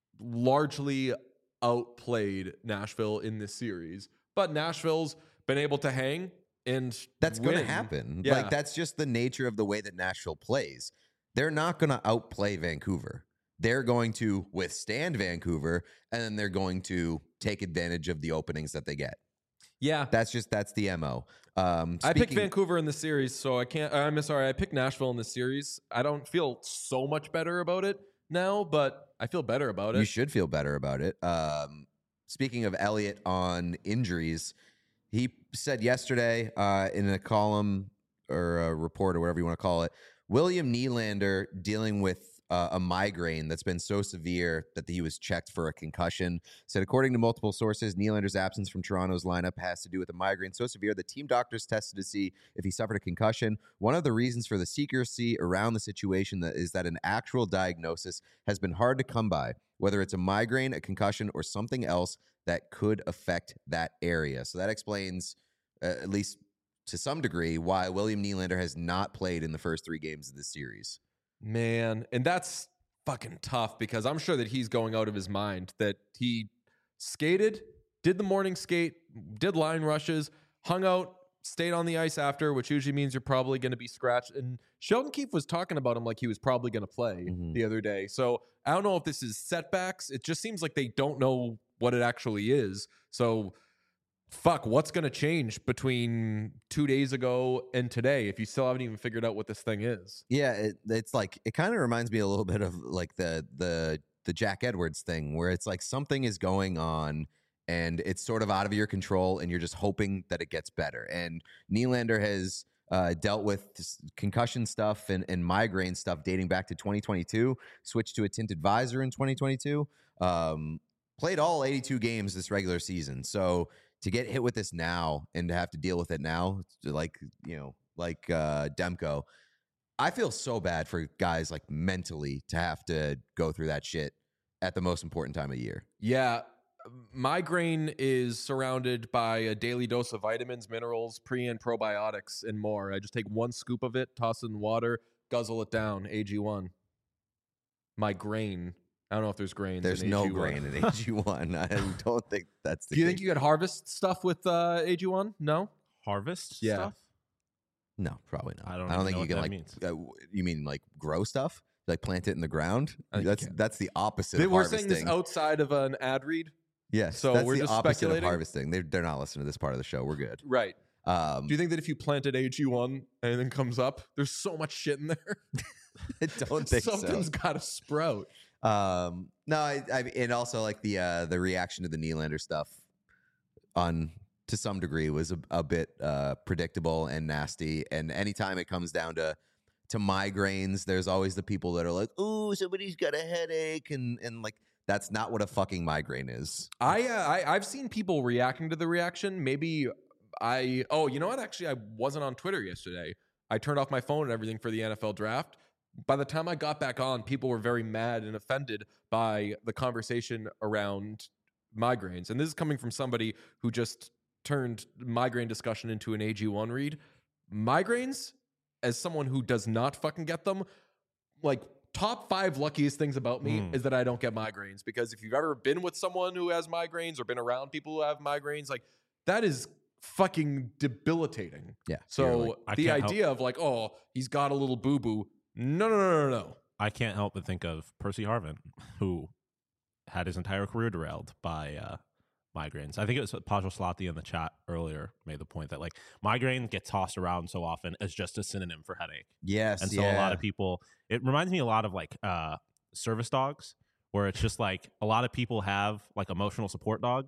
largely outplayed Nashville in this series, but Nashville's been able to hang and That's going to win. happen. Yeah. Like, that's just the nature of the way that Nashville plays. They're not going to outplay Vancouver. They're going to withstand Vancouver, and then they're going to take advantage of the openings that they get. Yeah. That's just, that's the M O. Um, I picked speaking- Vancouver in the series, so I can't. I'm sorry. I picked Nashville in the series. I don't feel so much better about it now, but I feel better about it. You should feel better about it. Um, speaking of Elliott on injuries, he said yesterday uh, in a column or a report or whatever you want to call it, William Nylander dealing with uh, a migraine that's been so severe that he was checked for a concussion. Said, according to multiple sources, Nylander's absence from Toronto's lineup has to do with a migraine so severe the team doctors tested to see if he suffered a concussion. One of the reasons for the secrecy around the situation that is that an actual diagnosis has been hard to come by, whether it's a migraine, a concussion, or something else that could affect that area. So that explains, uh, at least to some degree, why William Nylander has not played in the first three games of this series. Man, and that's fucking tough because I'm sure that he's going out of his mind that he skated, did the morning skate, did line rushes, hung out, stayed on the ice after, which usually means you're probably going to be scratched. And Sheldon Keefe was talking about him like he was probably going to play Mhm. the other day. So I don't know if this is setbacks. It just seems like they don't know what it actually is. So fuck, what's going to change between two days ago and today if you still haven't even figured out what this thing is? Yeah, it, it's like it kind of reminds me a little bit of like the the the Jack Edwards thing, where it's like something is going on and it's sort of out of your control, and you're just hoping that it gets better. And Nylander has uh, dealt with this concussion stuff and, and migraine stuff dating back to twenty twenty-two. Switched to a tinted visor in twenty twenty-two. Um, played all eighty-two games this regular season, so to get hit with this now and to have to deal with it now, like, you know, like uh, Demko, I feel so bad for guys like mentally to have to go through that shit at the most important time of year. Yeah. Migraine is surrounded by a daily dose of vitamins, minerals, pre and probiotics, and more. I just take one scoop of it, toss it in water, guzzle it down. A G one. Migraine. I don't know if there's grains. There's in no A G one. grain in A G one. I don't think that's the Do you case. think you could harvest stuff with uh, A G one? No? Harvest Yeah. stuff? No, probably not. I don't I don't even think know you what can that like. means. Uh, you mean like grow stuff? Like plant it in the ground? I think you That's can. that's the opposite. They- of We're harvesting. saying this outside of an ad read. Yes, so that's we're the just opposite speculating? of harvesting. They're they're not listening to this part of the show. We're good. Right. Um, Do you think that if you planted A G one, anything comes up? There's so much shit in there. I don't think Something's so. got to sprout. Um, no, I, I and also like the uh, the reaction to the Nylander stuff on to some degree was a, a bit uh, predictable and nasty. And anytime it comes down to to migraines, there's always the people that are like, "Ooh, somebody's got a headache," and and like that's not what a fucking migraine is. I, uh, I I've seen people reacting to the reaction. Maybe I oh you know what? Actually, I wasn't on Twitter yesterday. I turned off my phone and everything for the N F L draft. By the time I got back on, people were very mad and offended by the conversation around migraines. And this is coming from somebody who just turned migraine discussion into an A G one read. Migraines, as someone who does not fucking get them, like top five luckiest things about me Mm. is that I don't get migraines. Because if you've ever been with someone who has migraines or been around people who have migraines, like that is fucking debilitating. Yeah. So you're like, I the can't help- idea of like, oh, he's got a little boo boo. No, no, no, no, no. I can't help but think of Percy Harvin, who had his entire career derailed by uh, migraines. I think it was Pajal Slati in the chat earlier made the point that like migraine gets tossed around so often as just a synonym for headache. yes, And so yeah. a lot of people, it reminds me a lot of like uh, service dogs, where it's just like a lot of people have like emotional support dogs,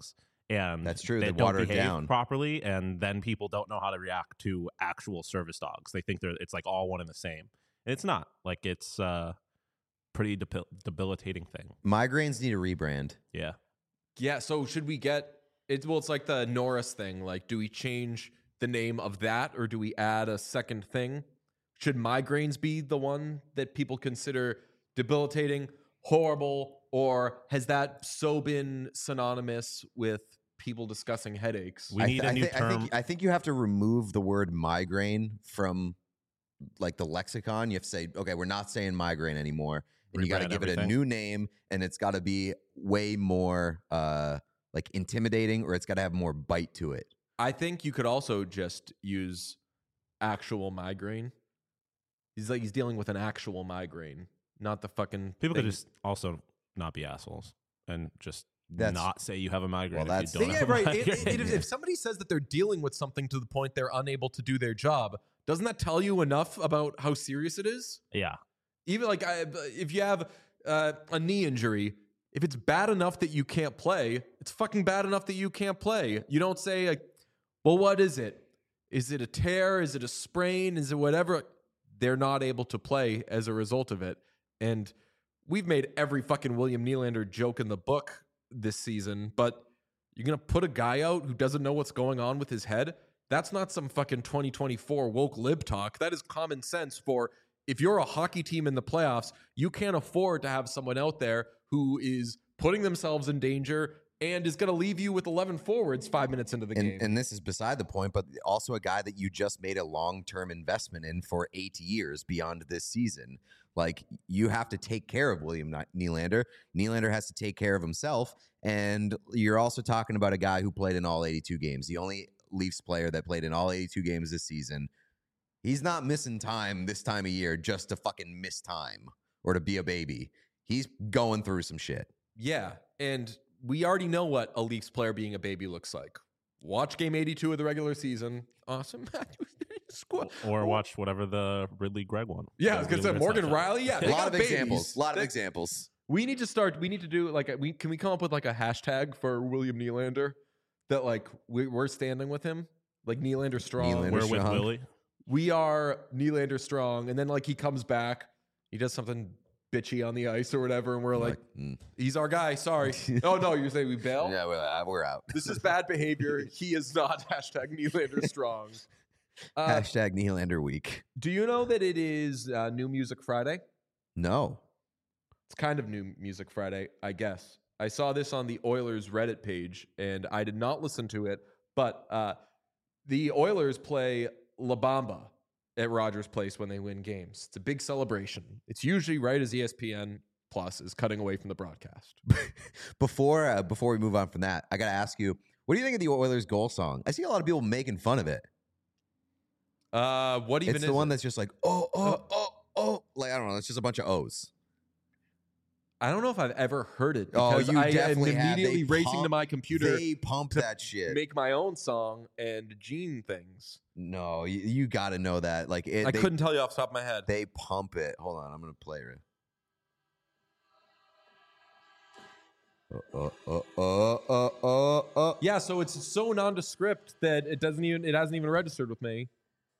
and That's true. They, They don't water it behave down. properly, and then people don't know how to react to actual service dogs. They think they're it's like all one and the same. And it's not. Like it's uh pretty debil- debilitating thing. Migraines need a rebrand. Yeah. Yeah. So should we get it? Well, it's like the Norris thing. Like, do we change the name of that, or do we add a second thing? Should migraines be the one that people consider debilitating, horrible, or has that so been synonymous with people discussing headaches? We I need th- a new I, thi- I term. think I think you have to remove the word migraine from like the lexicon. You have to say, okay, we're not saying migraine anymore, and you got to Rebrand give it a everything. new name, and it's got to be way more uh, like intimidating, or it's got to have more bite to it. I think you could also just use actual migraine. He's like he's dealing with an actual migraine, not the fucking People could thing. just also not be assholes and just That's- not say you have a migraine. Well, if that's- you don't Yeah, have a right. It- migraine. it- it- if somebody says that they're dealing with something to the point they're unable to do their job, doesn't that tell you enough about how serious it is? yeah. Even like I, if you have uh, a knee injury, if it's bad enough that you can't play, it's fucking bad enough that you can't play. You don't say like, well, what is it? Is it a tear? Is it a sprain? Is it whatever? They're not able to play as a result of it. And we've made every fucking William Nylander joke in the book this season, but you're going to put a guy out who doesn't know what's going on with his head? That's not some fucking twenty twenty-four woke lib talk. That is common sense for if you're a hockey team in the playoffs, you can't afford to have someone out there who is putting themselves in danger and is going to leave you with eleven forwards five minutes into the And, game. and this is beside the point, but also a guy that you just made a long-term investment in for eight years beyond this season. Like, you have to take care of William Nylander. Nylander has to take care of himself. And you're also talking about a guy who played in all eighty-two games, the only Leafs player that played in all eighty-two games this season. He's not missing time this time of year just to fucking miss time or to be a baby. He's going through some shit. Yeah, and we already know what a Leafs player being a baby looks like. Watch game eighty-two of the regular season. Awesome. Squad. Or watch whatever the Ridley Gregg one. Yeah, I The was gonna say Wheeler Morgan Snapchat. Riley. Yeah, A they lot got of babies. examples. A lot of They- examples. We need to start. We need to do like a, we can we come up with like a hashtag for William Nylander that like we, we're standing with him, like Nylander strong. Nylander We're with Strong. Willie. We are Nylander strong, and then like he comes back, he does something bitchy on the ice or whatever, and we're like, mm. he's our guy. Sorry. Oh no, you're saying we bail? Yeah, we're, uh, we're out. This is bad behavior. He is not hashtag Nylander strong. Uh, Hashtag Nylander week. do you know that it is uh, New Music Friday? No. It's kind of New Music Friday, I guess. I saw this on the Oilers Reddit page, and I did not listen to it, but uh, the Oilers play La Bamba at Rogers Place when they win games. It's a big celebration. It's usually right as E S P N Plus is cutting away from the broadcast. Before uh, before we move on from that, I got to ask you, what do you think of the Oilers goal song? I see a lot of people making fun of it. Uh, what even It's is the one it? that's just like, oh, oh, oh, oh. Like, I don't know. It's just a bunch of O's. I don't know if I've ever heard it Oh, because you I am definitely have. They immediately racing to pump- my computer They pump to that shit. make my own song and Gene things. no, you, you got to know that. Like, it, I they, couldn't tell you off the top of my head. They pump it. Hold on. I'm going to play it. Uh, uh, uh, uh, uh, uh. Yeah, so it's so nondescript that it doesn't even it hasn't even registered with me.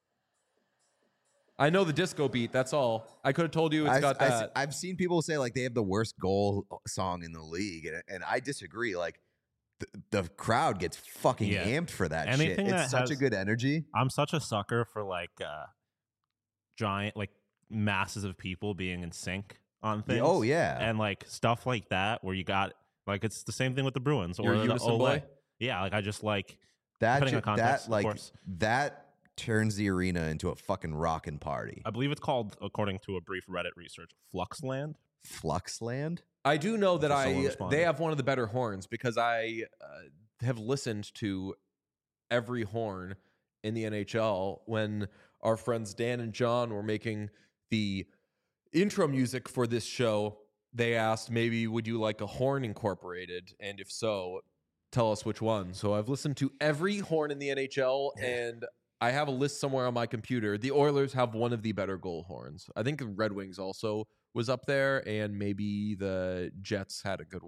I know the disco beat. That's all. I could have told you it's I've, got I've- that. I've seen people say like they have the worst goal song in the league, and, and I disagree. Like the, the crowd gets fucking Yeah. amped for that Anything shit. that It's such a has- good energy. I'm such a sucker for like uh, giant, like masses of people being in sync on things. Oh yeah, And like stuff like that where you got like it's the same thing with the Bruins You're or a the unison Ole. boy? Yeah, like I just like that depending ju- on context, that of like course. that turns the arena into a fucking rockin' party. I believe it's called, according to a brief Reddit research, Fluxland. Fluxland. I do know that So someone I responded. they have one of the better horns because I uh, have listened to every horn in the N H L when our friends Dan and John were making the intro music for this show. They asked maybe would you like a horn incorporated, and if so, tell us which one. So I've listened to every horn in the N H L, and I have a list somewhere on my computer. The Oilers have one of the better goal horns. I think the Red Wings also was up there, and maybe the Jets had a good one.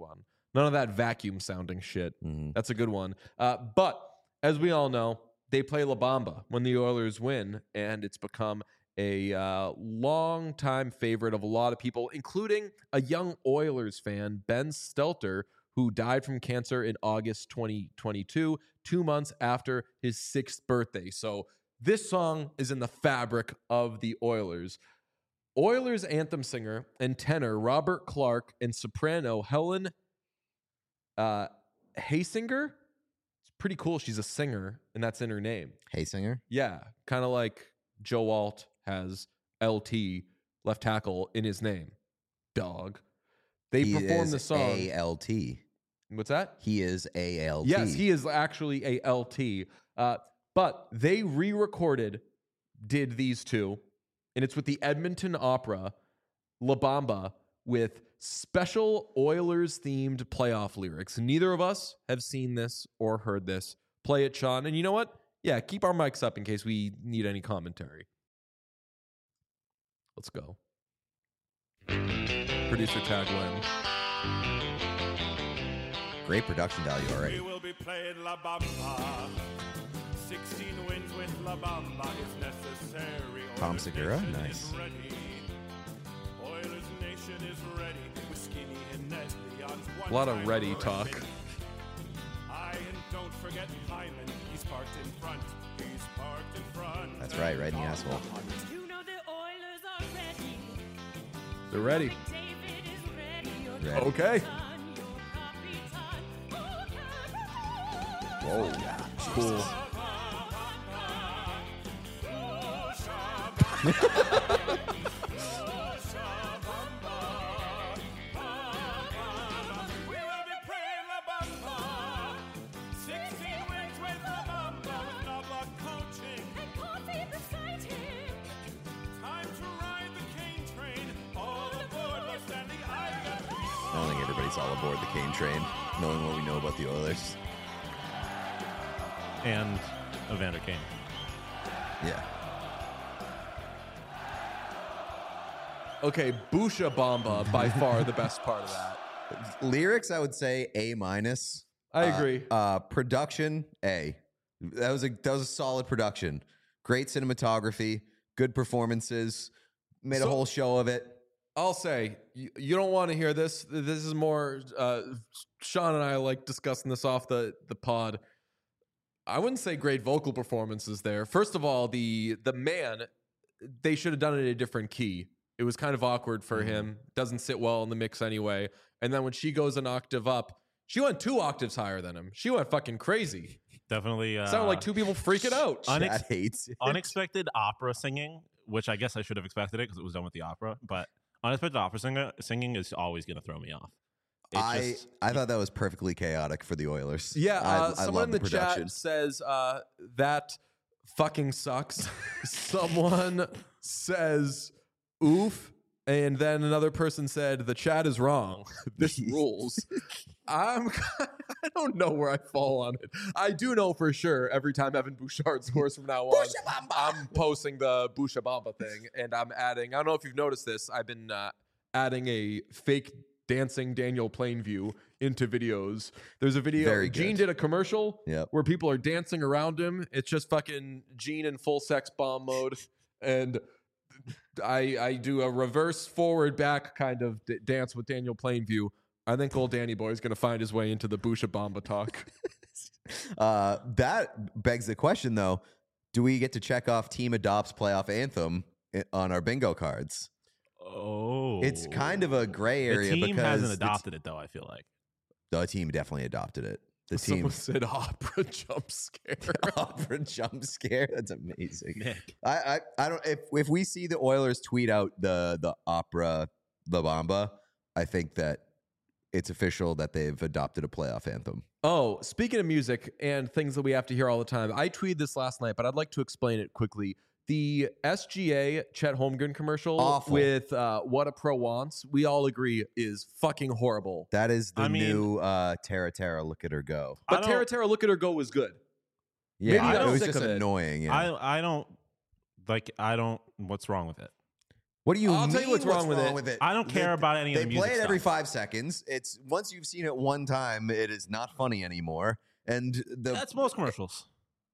None of that vacuum sounding shit. Mhm. That's a good one. Uh, but as we all know, they play La Bamba when the Oilers win, and it's become a uh, long-time favorite of a lot of people, including a young Oilers fan, Ben Stelter, who died from cancer in August twenty twenty-two, two months after his sixth birthday. So this song is in the fabric of the Oilers. Oilers anthem singer and tenor Robert Clark and soprano Helen uh, Haysinger. It's pretty cool. She's a singer, and that's in her name. Hey, singer. Yeah, kind of like Joe Alt has L T, left tackle, in his name. Dog. They He perform is the song. A L T. What's that? He is A L T. Yes, he is actually a L T. Uh, but they re-recorded, did these two, and it's with the Edmonton Opera, La Bamba, with special Oilers-themed playoff lyrics. Neither of us have seen this or heard this. Play it, Sean. And you know what? Yeah, keep our mics up in case we need any commentary. Let's go. Producer Tag Win. Great production value already. We will be playing La Bamba. sixteen wins with La Bamba is necessary. Tom Oilers Segura? Nation Nice. is ready. Oilers Nation is ready. With Skinny and Ned Leon's one A lot of time ready record. talk. Aye, and don't forget Hyman. He's parked in front. He's parked in front. That's right, right in the asshole. You know the Oilers are ready. They're ready. David is ready. Your Ready. Okay. son, your Capitan. Whoa. Cool. We will be playing La Bamba. sixteen wins with La Bamba. With Knobloch coaching. And coffee beside him. Time to ride the cane train. All aboard, we're standing high. I don't think everybody's all aboard the Kane train, knowing what we know about the Oilers. And Evander Kane. Yeah. Okay, Busha Bamba, by far the best part of that. Lyrics, I would say A minus. I Uh, agree. Uh, production, A. That was a that was a solid production. Great cinematography, good performances. Made a So- whole show of it. I'll say, you, you don't want to hear this. This is more, uh, Sean and I like discussing this off the, the pod. I wouldn't say great vocal performances there. First of all, the the man, they should have done it in a different key. It was kind of awkward for him. Doesn't sit well in the mix anyway. And then when she goes an octave up, she went two octaves higher than him. She went fucking crazy. Definitely. Uh, Sounded like two people freaking out. Unex- Chad hates it. unexpected opera singing, which I guess I should have expected it because it was done with the opera. But unexpected opera singer, singing is always going to throw me off. It's I just- I thought that was perfectly chaotic for the Oilers. Yeah, I, uh, I someone love in the, the production. chat says uh, that fucking sucks. Someone says oof, and then another person said the chat is wrong. This rules. I'm I don't know where I fall on it. I do know for sure every time Evan Bouchard scores from now on, I'm posting the Boucha Bamba thing, and I'm adding. I don't know if you've noticed this. I've been uh, adding a fake dancing Daniel Plainview into videos. There's a video. Very Gene good. did a commercial Yep. where people are dancing around him. It's just fucking Gene in full sex bomb mode, and I I do a reverse forward back kind of d- dance with Daniel Plainview. I think old Danny Boy is going to find his way into the Boucha Bamba talk. Uh, that begs the question, though: do we get to check off team adopts playoff anthem i- on our bingo cards? oh, It's kind of a gray area The team because hasn't the t- adopted it though. I feel like. the team definitely adopted it. The team Someone said opera jump scare. opera jump scare. That's amazing. Nick. I, I I don't if if we see the Oilers tweet out the the opera La Bamba, I think that it's official that they've adopted a playoff anthem. Oh, speaking of music and things that we have to hear all the time, I tweeted this last night, but I'd like to explain it quickly. The S G A Chet Holmgren commercial Awful. with uh, What a Pro Wants, we all agree is fucking horrible. That is the I mean- new uh, Tara Tara. Look at her go. I But don't- Tara Tara, Look at Her Go was good. Yeah, Maybe it I'm was sick just of it. annoying. Yeah. I I don't like. I don't. What's wrong with it? What do you I'll mean? tell you what's wrong with it. I don't care They- about any of They the music play it every stuff. five seconds. It's once you've seen it one time, it is not funny anymore. And the That's most commercials.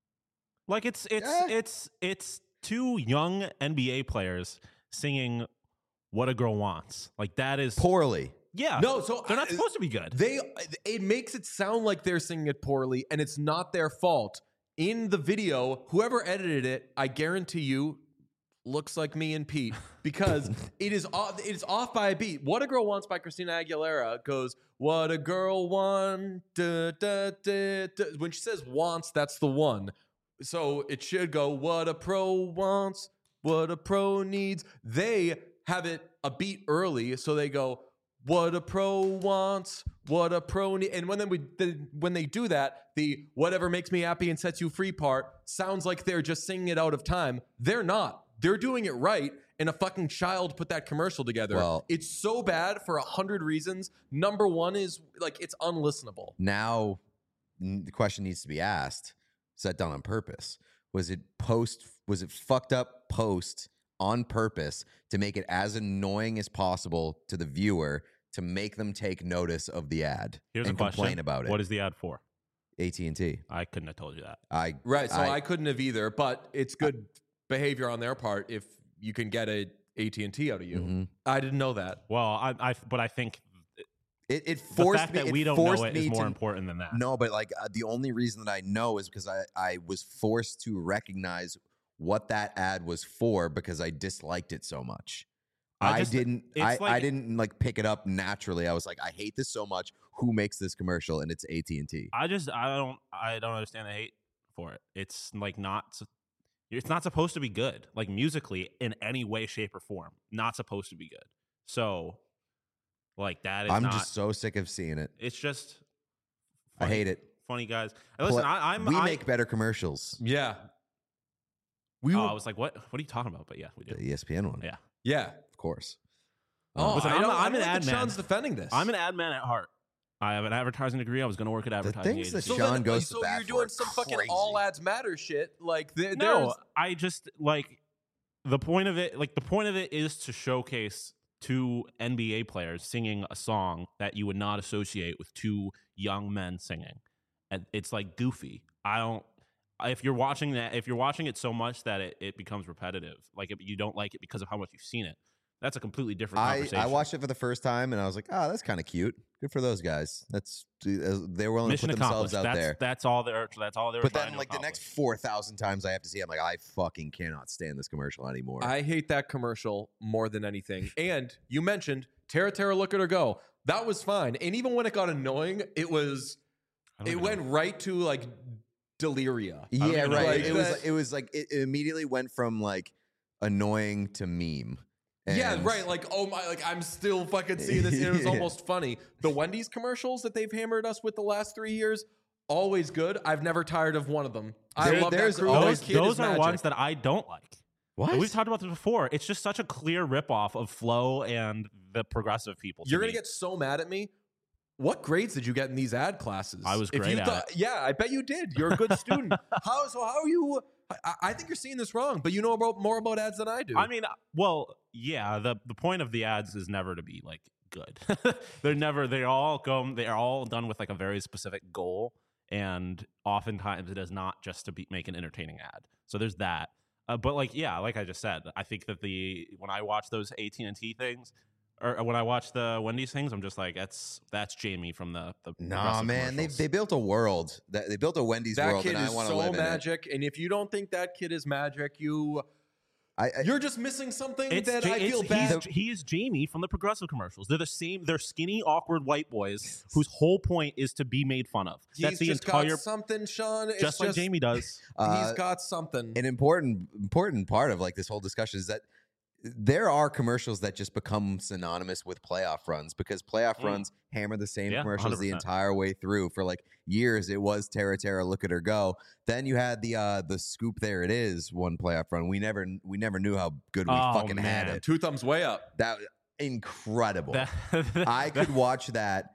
Like it's it's Yeah. it's it's two young N B A players singing "What a Girl Wants." Like that is poorly. yeah. No, so they're not I- supposed to be good. They it makes it sound like they're singing it poorly, and it's not their fault. In the video, whoever edited it, I guarantee you, looks like me and Pete because it is off, it is off by a beat. "What a Girl Wants" by Christina Aguilera goes, "What a girl wants." Da, da, da, da. When she says "wants," that's the one. So it should go, "What a pro wants, what a pro needs." They have it a beat early, so they go, "What a pro wants, what a pro need." And when they, the, when they do that, the "whatever makes me happy and sets you free" part sounds like they're just singing it out of time. They're not. They're doing it right, and a fucking child put that commercial together. Well- it's so bad for a hundred reasons. Number one is, like, it's unlistenable. Now, n- the question needs to be asked: is that done on purpose? Was it post? Was it fucked up post on purpose to make it as annoying as possible to the viewer to make them take notice of the ad Here's and a question. complain about it? What is the ad for? A T and T? I couldn't have told you that. I Right, so I, couldn't have either, but it's good behavior on their part if you can get a A T and T out of you. Mhm. I didn't know that. Well, I, I but I think It, it the forced fact me. that it we don't forced know it me is more to, important than that. No, but like uh, the only reason that I know is because I I was forced to recognize what that ad was for because I disliked it so much. I I, just- didn't. it's I, I like- didn't like pick it up naturally. I was like, I hate this so much. Who makes this commercial? And it's A T and T. I just I don't I don't understand the hate for it. It's like not s- it's not supposed to be good. Like musically in any way, shape, or form, not supposed to be good. So, like that is I'm not. just so sick of seeing it. It's just. I funny- hate it. Funny guys. And listen, Pla- I, I'm. we I, make better commercials. Yeah. We Oh, were, I was like, what? What are you talking about? But yeah, we do. The E S P N one. Yeah. yeah. Of course. Oh, Listen, I I'm don't- a- I I'm don't an like ad that man. Sean's defending this. I'm an ad man at heart. I have an advertising degree. I was going to work at The advertising things that agency. So Sean then- goes so to bat you're for doing are some fucking crazy. all ads matter shit. Like there, No, there's I just like the point of it. Like the point of it is to showcase two N B A players singing a song that you would not associate with two young men singing, and it's like goofy. I don't. If you're watching that, if you're watching it so much that it, it becomes repetitive, like if you don't like it because of how much you've seen it, that's a completely different I, conversation. I watched it for the first time and I was like, oh, that's kind of cute. Good for those guys. That's uh, they're willing Mission to put themselves accomplished. out that's, there. That's all they're. That's all they're. But trying then, to like the next accomplish. four thousand times I have to see, I'm like, I fucking cannot stand this commercial anymore. I hate that commercial more than anything. And you mentioned Tara Tara Look at Her Go. That was fine. And even when it got annoying, it was I don't it even went know. right to like deliria. yeah, even know right. what It, it was. is. It was like it immediately went from like annoying to meme. Yeah, And- right. Like, oh my, like I'm still fucking seeing this. It was Yeah. almost funny. The Wendy's commercials that they've hammered us with the last three years, always good. I've never tired of one of them. I There- love that there's crew. always- That Those, kid those is are magic. ones that I don't like. What? We've talked about this before. It's just such a clear ripoff of Flow and the progressive people. to You're gonna me. get so mad at me. What grades did you get in these ad classes? I was If great you at thought, Yeah, I bet you did. You're a good student. How so? How are you? I, I think you're seeing this wrong, but you know about more about ads than I do. I mean, well, yeah. The the point of the ads is never to be like good. they're never. They all go. They are all done with like a very specific goal, and oftentimes it is not just to be, make an entertaining ad. So there's that. Uh, but like, yeah, like I just said, I think that the when I watch those A T and T things, or when I watch the Wendy's things, I'm just like, that's that's Jamie from the the. Nah, progressive man. They commercials. they built a world. That they built a Wendy's that world, kid and I is want to so live magic. And if you don't think that kid is magic, you in it. I, I you're just missing something It's that Ja- I feel it's- bad. he's- He is Jamie from the progressive commercials. They're the same. They're skinny, awkward white boys whose whole point is to be made fun of. He's That's the just entire, got something, Sean. It's just like Jamie does. uh, He's got something. an important important part of like this whole discussion is that there are commercials that just become synonymous with playoff runs because playoff Mm. runs hammer the same Yeah, commercials the one hundred percent. entire way through. For like years, it was Tara Tara Look at Her Go. Then you had the uh the Scoop There It Is one playoff run. We never we never knew how good we Oh, fucking had man. it. Two thumbs way up. That incredible. That- I could watch that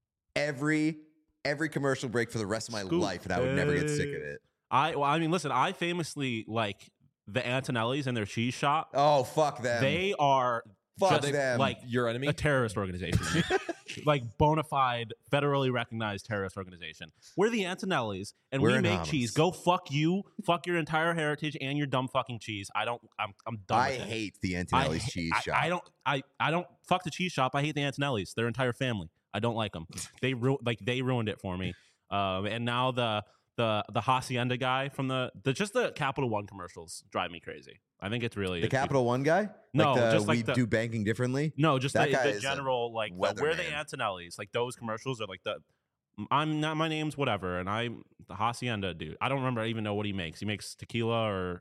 every every commercial break for the rest of my Scoop life, and I would never get sick of There. it. I well, I mean, listen. I famously like the Antonellis and their cheese shop. Oh, fuck them. They are Fuck just them. like Your enemy? a terrorist organization, like bona fide, federally recognized terrorist organization. We're the Antonellis, and We're we make anonymous. cheese. Go fuck you, fuck your entire heritage and your dumb fucking cheese. I don't. I'm. I'm done. I with it. hate the I Antonelli's ha- cheese I, shop. I don't. I. I don't fuck the cheese shop. I hate the Antonellis. Their entire family. I don't like them. They ru- like they ruined it for me. Um, and now the the the Hacienda guy from the the just the Capital One commercials drive me crazy. I think it's really The Capital One guy? No, like the, just like we the- do banking differently. No, just That the, guy the is a general like the, we're the weatherman. Antonellis. Like those commercials are like the I'm not my name's whatever, and I'm the Hacienda dude. I don't remember I even know what he makes. He makes tequila or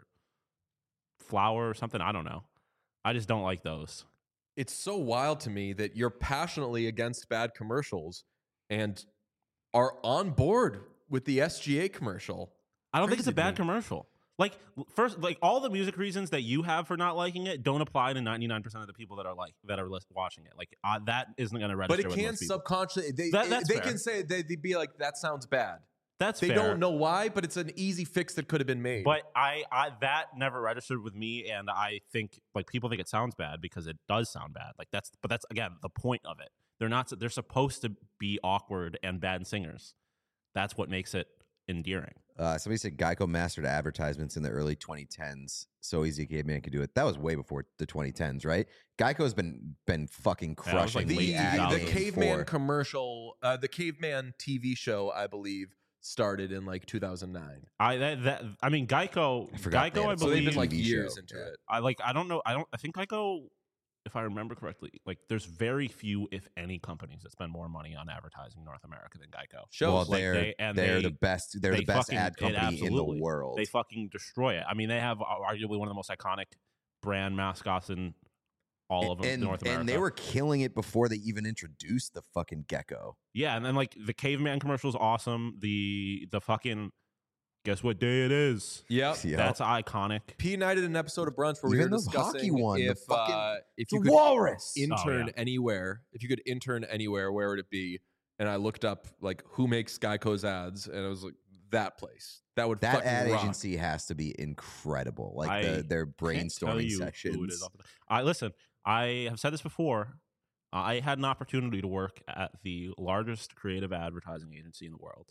flour or something. I don't know. I just don't like those. It's so wild to me that you're passionately against bad commercials and are on board with the S G A commercial. I don't think it's a Crazy to bad me. commercial. Like first, like all the music reasons that you have for not liking it don't apply to ninety-nine percent of the people that are like that are lis- watching it. Like uh, that isn't going to register. But it with can most people. subconsciously, they, That- that's they fair. can say, they, they'd be like, that sounds bad. That's They fair. don't know why, but it's an easy fix that could have been made. But I, I that never registered with me, and I think like people think it sounds bad because it does sound bad. Like that's, but that's again the point of it. They're not. They're supposed to be awkward and bad singers. That's what makes it endearing. Uh, somebody said Geico mastered advertisements in the early twenty tens. So easy caveman could do it. That was way before the twenty tens, right? Geico's been been fucking Yeah, it was like crushing the, the, ad the game caveman for- commercial, uh, the caveman T V show, I believe, started in like two thousand nine. I that, that I mean Geico. I forgot they Geico, had I a So believe. they've been like T V years show, into yeah. it. I like. I don't know. I don't. I think Geico. If I remember correctly, like there's very few, if any, companies that spend more money on advertising in North America than Geico. Shows well, like they're they- and they're they- the best. They're they the best fucking- ad it company in the absolutely- world. They fucking destroy it. I mean, they have arguably one of the most iconic brand mascots in all of and, North America. and they were killing it before they even introduced the fucking gecko. yeah, and then like the caveman commercial is awesome. The the fucking guess what day it is? Yep. Yeah. That's iconic. P and I did an episode of Brunch where we Even were the discussing hockey one, the if, fucking- uh, if The you could walrus. intern Oh, yeah. anywhere, if you could intern anywhere, where would it be? And I looked up like who makes Geico's ads, and I was like, that place. That would That fucking ad rock. agency has to be incredible. Like I the, their Can't tell brainstorming you sessions. who it is off the- I listen. I have said this before. I had an opportunity to work at the largest creative advertising agency in the world.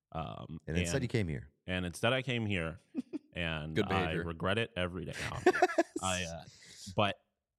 Um, and instead, you came here. and instead I came here, and Good I behavior. regret it every day. No, I, uh, but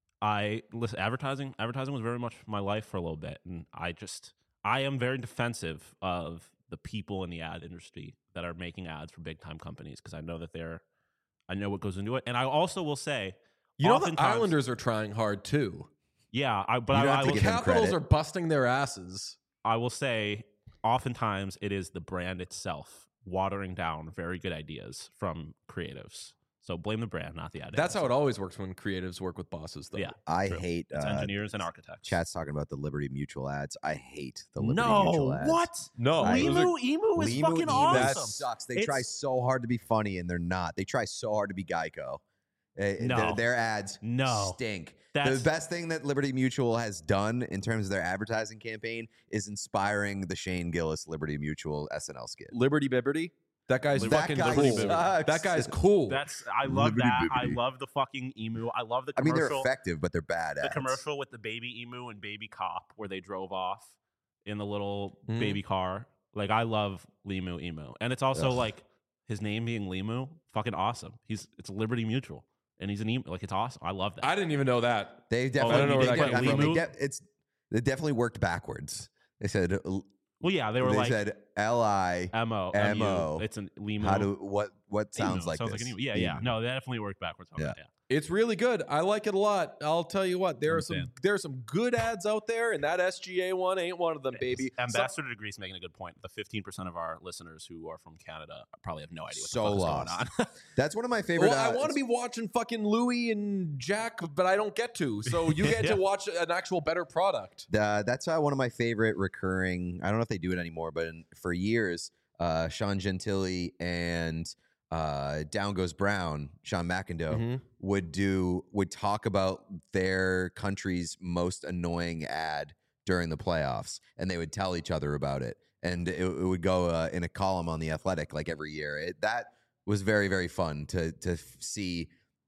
I listen. Advertising, advertising was very much my life for a little bit, and I just, I am very defensive of the people in the ad industry that are making ads for big time companies because I know that they're, I know what goes into it, and I also will say, You know, the oftentimes- Islanders are trying hard too. yeah, I, but You I, don't I have to will, give them Capitals credit. are busting their asses. I will say, oftentimes it is the brand itself watering down very good ideas from creatives. So blame the brand, not the ad. That's how agency. it always works when creatives work with bosses, though. Yeah. I True. hate It's uh, engineers and architects. Chat's talking about the Liberty Mutual ads. I hate the Liberty no, Mutual ads. what? No, I- those are- Emu, Emu is Limu fucking Emu awesome. sucks. They It's- try so hard to be funny and they're not. They try so hard to be Geico. Uh, No. their, their ads No. stink. That's- the best thing that Liberty Mutual has done in terms of their advertising campaign is inspiring the Shane Gillis Liberty Mutual S N L skit. Liberty Bibberty. That guy's That fucking guy cool. sucks. That guy's cool. That's I love Liberty that. I Bibbidi. love the fucking emu. I love the I mean, commercial. they're effective, but they're bad the ads. commercial with the baby emu and baby cop where they drove off in the little Mhm. baby car. Like I love Limu Emu, and it's also Ugh. like his name being Limu, fucking awesome. He's it's Liberty Mutual, and he's an emu. Like it's awesome. I love that. I didn't even know that. They I definitely, don't know where they that get- came I mean, from. they de- it's they definitely worked backwards. They said well, yeah, they were they like said L I. M O M O. It's an Limu. How do what what sounds Emu. like sounds this? like an emu. Yeah, yeah. Emu. No, that definitely worked backwards. On Yeah. that, yeah. It's really good. I like it a lot. I'll tell you what. There are some Understand. there are some good ads out there, and that S G A one ain't one of them, baby. So- Ambassador to Greece making a good point. The fifteen percent of our listeners who are from Canada probably have no idea what So the fuck lost. is going on. That's one of my favorite. well, I uh, want to be watching fucking Louis and Jack, but I don't get to. So you get Yeah. to watch an actual better product. Uh, that's uh, one of my favorite recurring. I don't know if they do it anymore, but in, for years, uh, Sean Gentili and uh, Down Goes Brown, Sean McIndoe, Mhm. would do would talk about their country's most annoying ad during the playoffs, and they would tell each other about it, and it, it would go uh, in a column on the Athletic like every year. It, that was very very fun to to f- see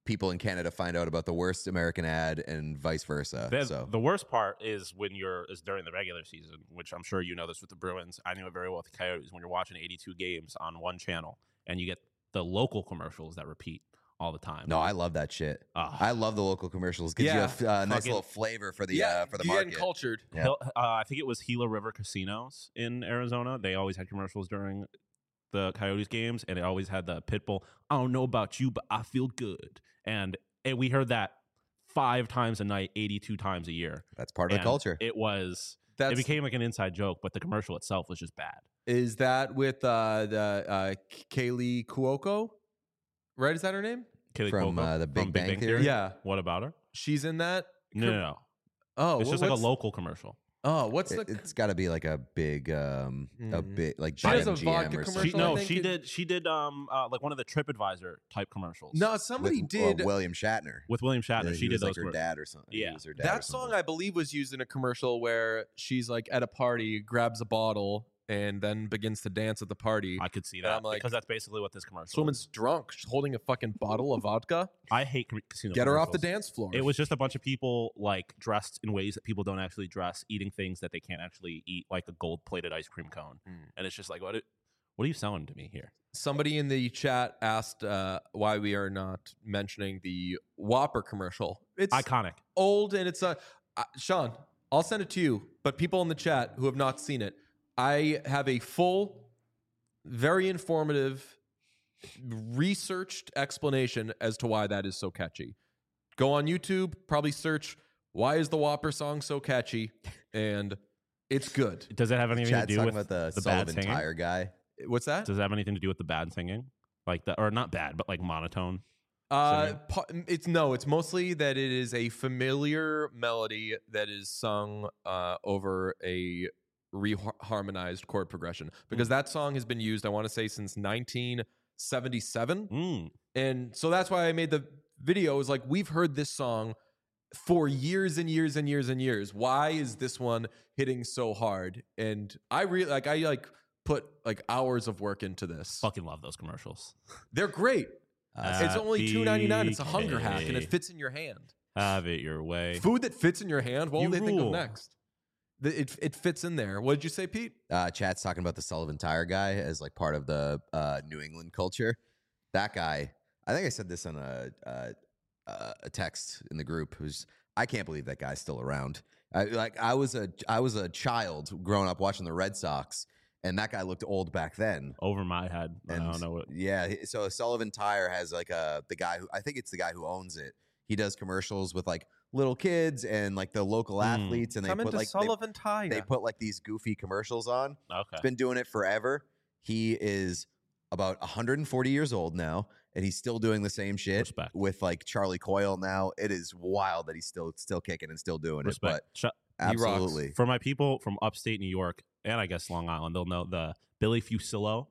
people in Canada find out about the worst American ad and vice versa. The, so the worst part is when you're is during the regular season, which I'm sure you know this with the Bruins. I knew it very well with the Coyotes. When you're watching eighty-two games on one channel and you get the local commercials that repeat all the time. no, I love that shit. Ah. I love the local commercials. Gives Yeah. you a f- uh, nice Fucking- little flavor for the yeah, uh, for the you're market. getting cultured. Yeah. Hill- uh, I think it was Gila River Casinos in Arizona. They always had commercials during the Coyotes games, and it always had the Pitbull, I don't know about you, but I feel good. And, and we heard that five times a night, eighty-two times a year. That's part of the And culture. It was, That's it became like an inside joke, but the commercial itself was just bad. is that with uh, the uh, Kaylee Cuoco, right? Is that her name? Kaylee From, Cuoco uh, the Big Bang Theory? Yeah, What about her? she's in that. No, no, no. Oh, It's wha- just like a what's- local commercial. Oh, what's It, the? has got to be like a big, um, a Mm. big like She does a B M G M vodka or commercial, something. She, I no, think she it- did. She did um uh, like one of the TripAdvisor type commercials. No, somebody with, did. uh, William Shatner. with William Shatner. Yeah, she he did was those. like her commer- dad or something. He Yeah. was her dad or That song, something. I believe, was used in a commercial where she's like at a party, grabs a bottle, and then begins to dance at the party. I could see And that I'm like, because that's basically what this commercial. This woman's is. drunk. She's holding a fucking bottle of vodka. I hate ca- casino. Get her off the commercials. dance floor. It was just a bunch of people like dressed in ways that people don't actually dress, eating things that they can't actually eat, like a gold-plated ice cream cone. Mm. And it's just like, what? What are you selling to me here? Somebody in the chat asked uh, why we are not mentioning the Whopper commercial. It's Iconic. old and it's a uh, Sean. I'll send it to you. But people in the chat who have not seen it, I have a full, very informative, researched explanation as to why that is so catchy. Go on YouTube, probably search "Why is the Whopper song so catchy?" and it's good. Does it have anything Chad's to do talking with about the, the bad Sullivan singing? Tire guy. What's that? Does it have anything to do with the bad singing, like the or not bad, but like monotone? Uh, singing? pa- it's no. It's mostly that it is a familiar melody that is sung uh, over a reharmonized chord progression. Because that song has been used, I want to say, since nineteen seventy-seven, Mm. and so that's why I made the video. Is like we've heard this song for years and years and years and years. Why is this one hitting so hard? And I really like. I like put like hours of work into this. Fucking love those commercials. They're great. Uh, It's only two ninety-nine. It's a Happy hunger hack, and it K. fits in your hand. Have it your way. Food that fits in your hand. What You will they think of rule. next? The- It it fits in there. What did you say, Pete? uh, Chad's talking about the Sullivan Tire guy as like part of the uh, New England culture. That guy, I think I said this on a uh, uh, a text in the group. Who's I can't believe that guy's still around. I, like I was a I was a child growing up watching the Red Sox, and that guy looked old back then. Over my head. And I don't know what. yeah, he- so Sullivan Tire has like a the guy who I think it's the guy who owns it. He does commercials with like little kids and like the local Mm. athletes, and they Come put into like they, Sullivan Tire. they put like these goofy commercials on. Okay. He's been doing it forever. He is about one hundred forty years old now, and he's still doing the same shit Respect. with like Charlie Coyle now. It is wild that he's still still kicking and still doing Respect. it. Sh- But He rocks. absolutely, For my people from upstate New York and I guess Long Island, they'll know the Billy Fusillo.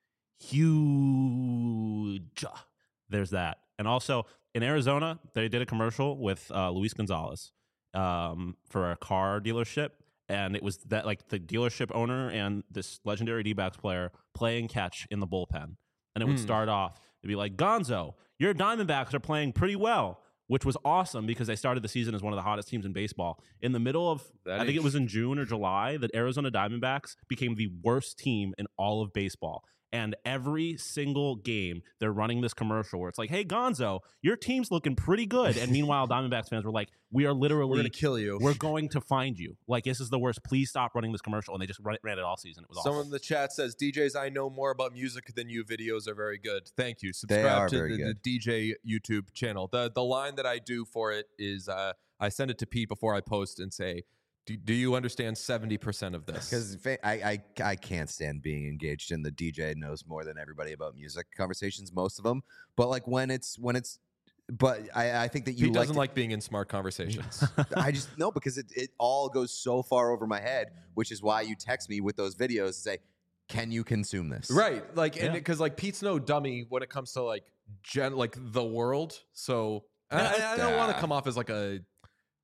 Huge. There's that. And also in Arizona, they did a commercial with uh, Luis Gonzalez um, for a car dealership. And it was that like the dealership owner and this legendary D-backs player playing catch in the bullpen. And it would Hmm. start off, it'd be like, Gonzo, your Diamondbacks are playing pretty well, which was awesome because they started the season as one of the hottest teams in baseball. In the middle of, That I think is- it was in June or July, that Arizona Diamondbacks became the worst team in all of baseball. And every single game, they're running this commercial where it's like, hey, Gonzo, your team's looking pretty good. And meanwhile, Diamondbacks fans were like, we are literally, We're gonna kill you. we're going to find you. Like, this is the worst. Please stop running this commercial. And they just run, ran it all season. It was Someone awful. in the chat says, D Js, I know more about music than you. Videos are very good. Thank you. are Subscribe to very the, the good. D J YouTube channel. The the line that I do for it is uh, I send it to Pete before I post and say, do, do you understand seventy percent of this? because I, I I can't stand being engaged in the D J knows more than everybody about music conversations. Most of them, but like when it's when it's, but I I think that you Pete doesn't to- like being in smart conversations. I just no because it it all goes so far over my head, which is why you text me with those videos and say, can you consume this? Right. Like, and Yeah. because like Pete's no dummy when it comes to like gen, like the world. So I, I- I don't want to Yeah. come off as like a